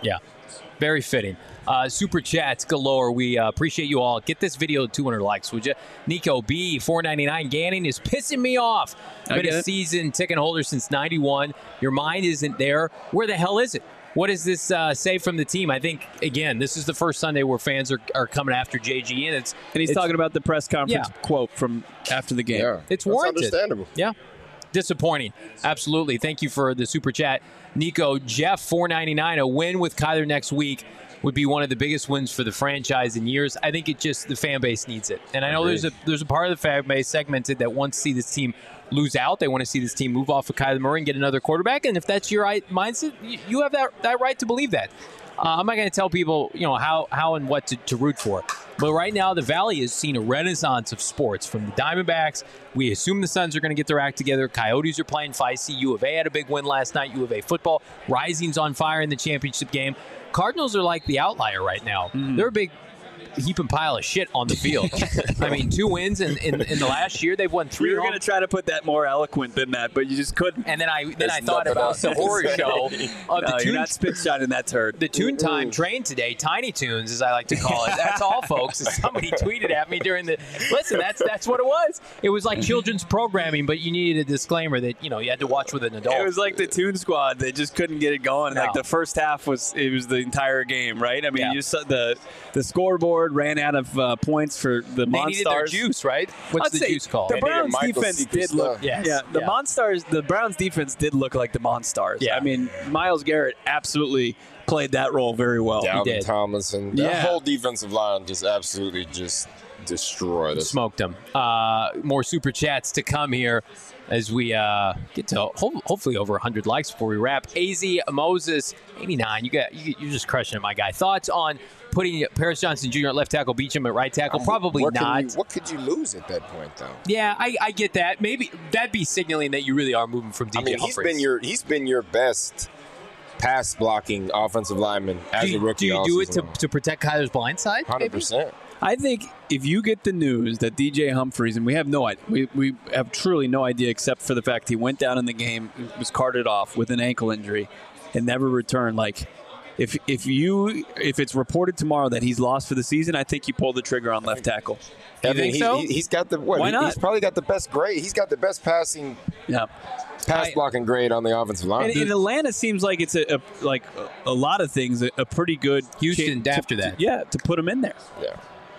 Very fitting. Uh, super chats galore. We uh, appreciate you all. Get this video to two hundred likes, would you? Nico B, four ninety-nine. Ganning is pissing me off. Been a season ticket holder since ninety-one. Your mind isn't there. Where the hell is it? What does this uh, say from the team? I think, again, this is the first Sunday where fans are, are coming after J G. And, it's, and he's it's, talking about the press conference yeah. quote from after the game. Yeah, it's that's warranted. Understandable. Yeah. Disappointing. Absolutely. Thank you for the super chat. Nico, Jeff, four ninety-nine. A win with Kyler next week would be one of the biggest wins for the franchise in years. I think it just, the fan base needs it. And I know there's a there's a part of the fan base segmented that wants to see this team lose out. They want to see this team move off of Kyler Murray and get another quarterback. And if that's your right mindset, you, you have that, that right to believe that. Uh, I'm not going to tell people, you know, how, how and what to, to root for. But right now, the Valley has seen a renaissance of sports from the Diamondbacks. We assume the Suns are going to get their act together. Coyotes are playing feisty. U of A had a big win last night. U of A football. Rising's on fire in the championship game. Cardinals are like the outlier right now. Mm. They're a big heaping pile of shit on the field. I mean, two wins in, in, in the last year. They've won three. You were going to try to put that more eloquent than that, but you just couldn't. And then I then There's I thought about the horror show of no, the you're Toon, not spit shining that turd. The Toon Time train today, Tiny Toons, as I like to call it. That's all, folks. Somebody tweeted at me during the. Listen, that's that's what it was. It was like children's programming, but you needed a disclaimer that you know you had to watch with an adult. It was like the Toon Squad. They just couldn't get it going. No. Like the first half was it was the entire game, right? I mean, yeah. you saw the the scoreboard ran out of. Uh, points for the they Monstars. Needed their juice, right? What's I'd the juice called? The Browns defense did look. Yes. Yeah, the yeah. Monstars. The Browns defense did look like the Monstars. Yeah. I mean, Myles Garrett absolutely played that role very well. Dalvin Thomas and that yeah. whole defensive line just absolutely just destroyed us. Smoked them. Uh, more super chats to come here as we uh, get to ho- hopefully over one hundred likes before we wrap. A Z Moses, eighty-nine. You got you, you're just crushing it, my guy. Thoughts on putting Paris Johnson Junior at left tackle, Beachum at right tackle? Probably what not. You, what could you lose at that point, though? Yeah, I, I get that. Maybe that'd be signaling that you really are moving from D J I mean, Humphries. he's been your he's been your best pass blocking offensive lineman as do you, a rookie. Do you do it to, long. to protect Kyler's blind side? Hundred percent. I think if you get the news that D J Humphries, and we have no idea, we, we have truly no idea except for the fact he went down in the game, was carted off with an ankle injury, and never returned. Like, if if you if it's reported tomorrow that he's lost for the season, I think you pull the trigger on left tackle. Do you I mean, think he, so? He, he's got the what? Why he, not? He's probably got the best grade. He's got the best passing. Yeah. Pass blocking grade on the offensive line. And, and Atlanta seems like it's a, a like a, a lot of things a, a pretty good Houston cha- after to, that. To, yeah, to put him in there. Yeah.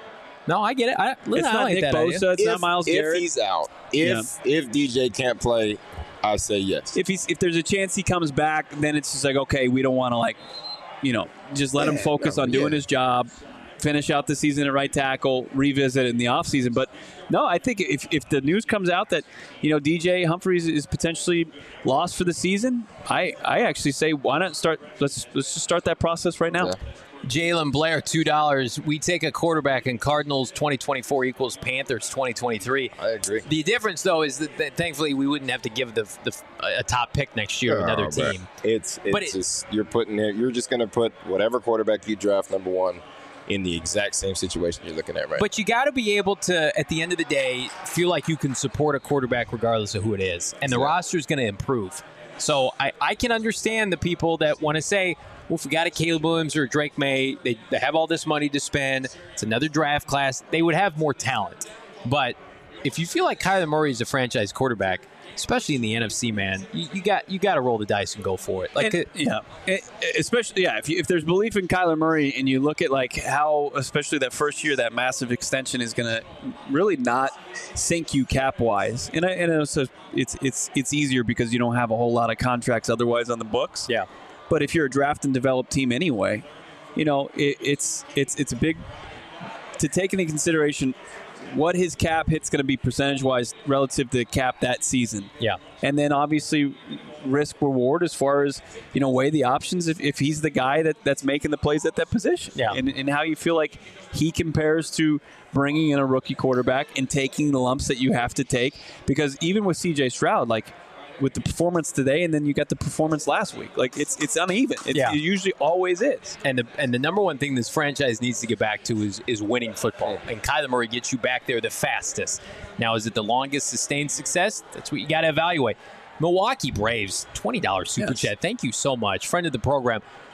No, I get it. I, listen, It's I not like Nick that Bosa. idea. It's if, not Myles if Garrett. he's out, if if D J can't play, I say yes. If he's if there's a chance he comes back, then it's just like okay, we don't want to like, you know, just let Yeah, him focus no, on doing yeah. his job, finish out the season at right tackle, revisit in the offseason. But no, I think if if the news comes out that you know D J Humphries is potentially lost for the season, I I actually say why not start? Let's let's just start that process right now. Yeah. Jalen Blair, two dollars. We take a quarterback in Cardinals twenty twenty-four equals Panthers twenty twenty-three. I agree. The difference, though, is that, that thankfully we wouldn't have to give the, the a top pick next year to another Oh, bro. team. It's it's But it- just you're putting it. You're just going to put whatever quarterback you draft number one in the exact same situation you're looking at right. But you got to be able to, at the end of the day, feel like you can support a quarterback regardless of who it is. And the Yeah. roster is going to improve. So I, I can understand the people that want to say, well, if we got a Caleb Williams or a Drake May, they, they have all this money to spend. It's another draft class. They would have more talent. But if you feel like Kyler Murray is a franchise quarterback, especially in the N F C, man, you, you got you got to roll the dice and go for it. Like, And, yeah, It- especially yeah. If you, if there's belief in Kyler Murray, and you look at like how, especially that first year, that massive extension is going to really not sink you cap wise, and I, and also it's it's it's easier because you don't have a whole lot of contracts otherwise on the books. yeah. But if you're a draft and develop team anyway, you know it, it's it's it's a big to take into consideration what his cap hit's going to be percentage wise relative to cap that season. Yeah. And then obviously risk reward as far as, you know, weigh the options if, if he's the guy that, that's making the plays at that position. Yeah. And, and how you feel like he compares to bringing in a rookie quarterback and taking the lumps that you have to take. Because even with C J Stroud, like with the performance today and then you got the performance last week, like it's it's uneven. It, Yeah. it usually always is. And the and the number one thing this franchise needs to get back to is is winning football. And Kyler Murray gets you back there the fastest. Now, is it the longest sustained success? That's what you got to evaluate. Milwaukee Braves, twenty dollars super Yes. chat. Thank you so much. Friend of the program.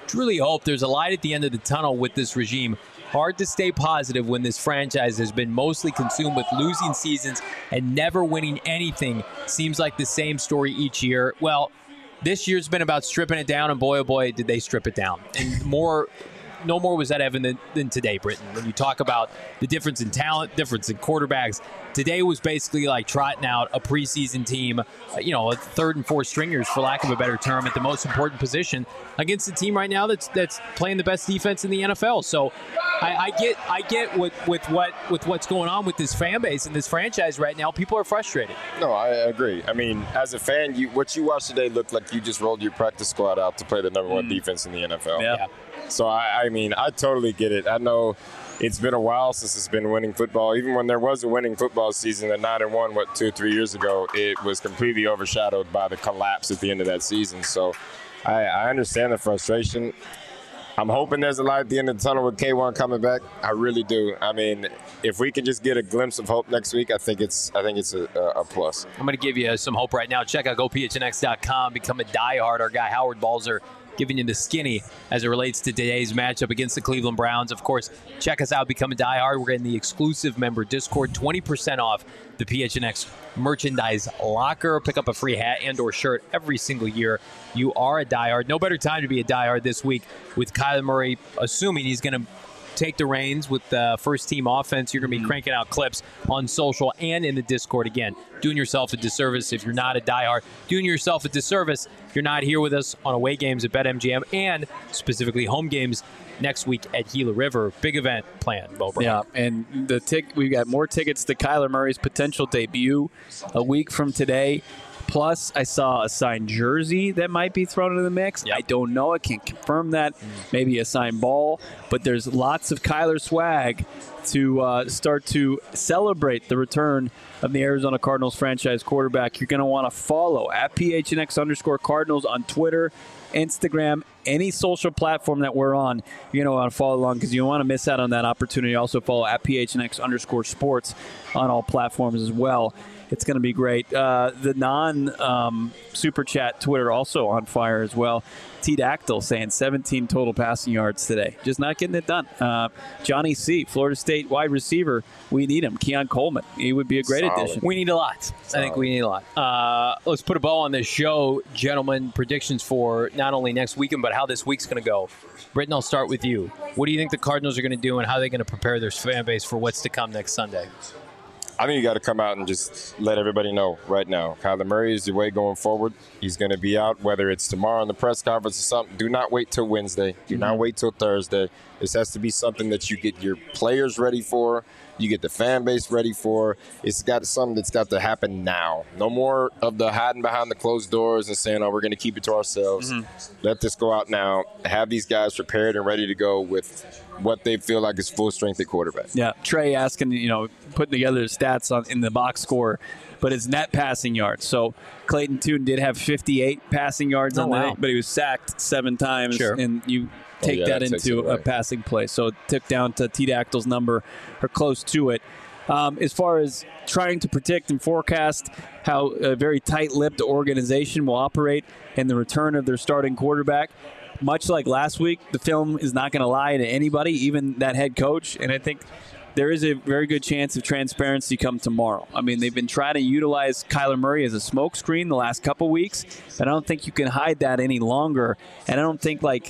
truly hope there's a light at the end of the tunnel with this regime. Hard to stay positive when this franchise has been mostly consumed with losing seasons and never winning anything. Seems like the same story each year. Well, this year's been about stripping it down, and boy, oh boy, did they strip it down. And more, no more was that evident than today, Britton. When you talk about the difference in talent, difference in quarterbacks, today was basically like trotting out a preseason team, you know, a third and fourth stringers, for lack of a better term, at the most important position against a team right now that's that's playing the best defense in the N F L. So I, I get I get with, with what with what's going on with this fan base and this franchise right now. People are frustrated. No, I agree. I mean, as a fan, you what you watched today looked like you just rolled your practice squad out to play the number one mm. defense in the N F L. Yeah. yeah. So, I, I mean, I totally get it. I know it's been a while since it's been winning football. Even when there was a winning football season at nine and one, what, two or three years ago, it was completely overshadowed by the collapse at the end of that season. So I, I understand the frustration. I'm hoping there's a light at the end of the tunnel with K one coming back. I really do. I mean, if we can just get a glimpse of hope next week, I think it's I think it's a, a plus. I'm going to give you some hope right now. Check out go P H N X dot com. Become a diehard. Our guy Howard Balzer giving you the skinny as it relates to today's matchup against the Cleveland Browns. Of course, check us out. Become a diehard. We're getting the exclusive member Discord, twenty percent off the P H N X merchandise locker. Pick up a free hat and or shirt every single year. You are a diehard. No better time to be a diehard this week with Kyler Murray, assuming he's going to take the reins with the first team offense. You're going to be cranking out clips on social and in the Discord. Again, doing yourself a disservice if you're not a diehard. Doing yourself a disservice if you're not here with us on away games at BetMGM and specifically home games next week at Gila River. Big event planned, Bo Brown. Yeah, and the tic- we've got more tickets to Kyler Murray's potential debut a week from today. Plus, I saw a signed jersey that might be thrown into the mix. Yep. I don't know. I can't confirm that. Mm. Maybe a signed ball. But there's lots of Kyler swag to uh, start to celebrate the return of the Arizona Cardinals franchise quarterback. You're going to want to follow at P H N X underscore Cardinals on Twitter, Instagram, any social platform that we're on. You're going to want to follow along because you don't want to miss out on that opportunity. Also follow at P H N X underscore sports on all platforms as well. It's going to be great. Uh, the non-Super um, Chat Twitter also on fire as well. T-Dactyl saying seventeen total passing yards today. Just not getting it done. Uh, Johnny C., Florida State wide receiver. We need him. Keon Coleman. He would be a great Solid. addition. addition. We need a lot. Solid. I think we need a lot. Uh, let's put a bow on this show, gentlemen. Predictions for not only next weekend, but how this week's going to go. Britton, I'll start with you. What do you think the Cardinals are going to do, and how are they going to prepare their fan base for what's to come next Sunday? I think you got to come out and just let everybody know right now. Kyler Murray is the way going forward. He's going to be out, whether it's tomorrow in the press conference or something. Do not wait till Wednesday. Do mm-hmm. not wait till Thursday. This has to be something that you get your players ready for. You get the fan base ready for. It's got something that's got to happen now. No more of the hiding behind the closed doors and saying, oh, we're going to keep it to ourselves. Mm-hmm. Let this go out now. Have these guys prepared and ready to go with what they feel like is full strength at quarterback. Yeah, Trey asking, you know, putting together the stats on in the box score, but it's net passing yards. So Clayton Tune did have fifty-eight passing yards oh, on wow. the day, but he was sacked seven times, sure. and you take oh, yeah, that, that into a passing play. So it took down to T-Dactyl's number or close to it. Um, as far as trying to predict and forecast how a very tight-lipped organization will operate and the return of their starting quarterback, much like last week, the film is not going to lie to anybody, even that head coach. And I think there is a very good chance of transparency come tomorrow. I mean, they've been trying to utilize Kyler Murray as a smokescreen the last couple weeks, but I don't think you can hide that any longer. And I don't think, like,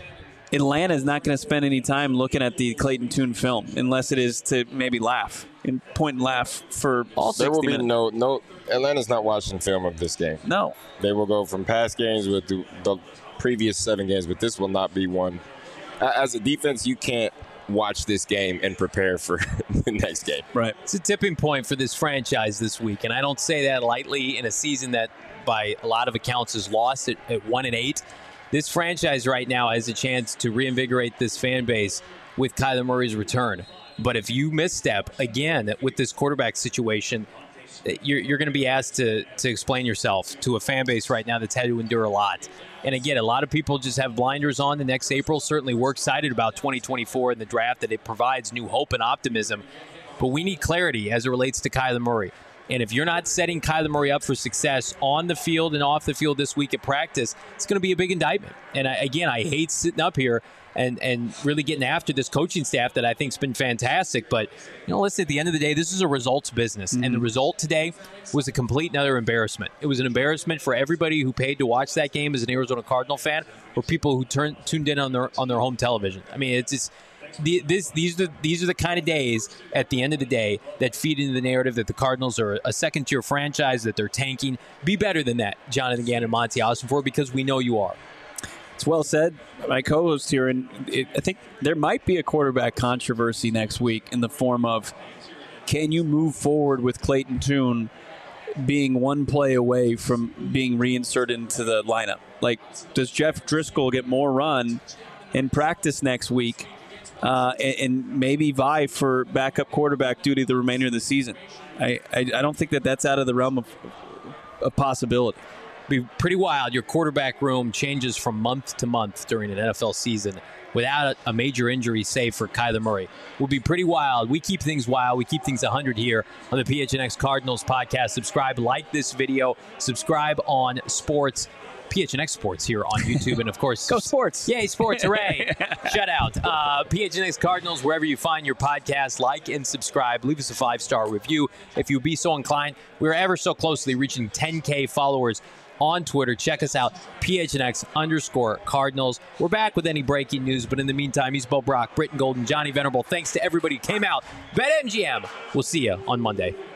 Atlanta is not going to spend any time looking at the Clayton Tune film unless it is to maybe laugh and point and laugh for all sixty minutes. There will be minutes. no, no, Atlanta's not watching film of this game. No. They will go from past games with the, the previous seven games, but this will not be one. As a defense, you can't watch this game and prepare for the next game. Right. It's a tipping point for this franchise this week, and I don't say that lightly in a season that by a lot of accounts is lost at, at one and eight. This franchise right now has a chance to reinvigorate this fan base with Kyler Murray's return. But if you misstep again with this quarterback situation, you're, you're going to be asked to to explain yourself to a fan base right now that's had to endure a lot. And again, a lot of people just have blinders on the next April. Certainly we're excited about twenty twenty-four and the draft, that it provides new hope and optimism. But we need clarity as it relates to Kyler Murray. And if you're not setting Kyler Murray up for success on the field and off the field this week at practice, it's going to be a big indictment. And I, again, I hate sitting up here and, and really getting after this coaching staff that I think has been fantastic. But, you know, listen, at the end of the day, this is a results business. Mm-hmm. And the result today was a complete and utter embarrassment. It was an embarrassment for everybody who paid to watch that game as an Arizona Cardinal fan or people who turned tuned in on their on their home television. I mean, it's just the, this these are the, these are the kind of days at the end of the day that feed into the narrative that the Cardinals are a second tier franchise, that they're tanking. Be better than that, Jonathan Gannon and Monty Ossenfort, because we know you are. It's well said, my co-host here, and it, I think there might be a quarterback controversy next week in the form of, can you move forward with Clayton Tune being one play away from being reinserted into the lineup? Like, does Jeff Driscoll get more run in practice next week uh, and, and maybe vie for backup quarterback duty the remainder of the season? I, I, I don't think that that's out of the realm of, of possibility. Be pretty wild. Your quarterback room changes from month to month during an N F L season without a major injury, save for Kyler Murray. Would be pretty wild. We keep things wild. We keep things one hundred here on the P H N X Cardinals podcast. Subscribe, like this video, subscribe on Sports, P H N X Sports here on YouTube, and of course, go Sports! Yay, Sports! Hooray! Shut out. Uh, P H N X Cardinals, wherever you find your podcast, like and subscribe. Leave us a five-star review if you be so inclined. We're ever so closely reaching ten K followers on Twitter. Check us out, P H N X underscore Cardinals. We're back with any breaking news, but in the meantime, he's Bo Brock, Britton Golden, Johnny Venerable. Thanks to everybody who came out. BetMGM. We'll see you on Monday.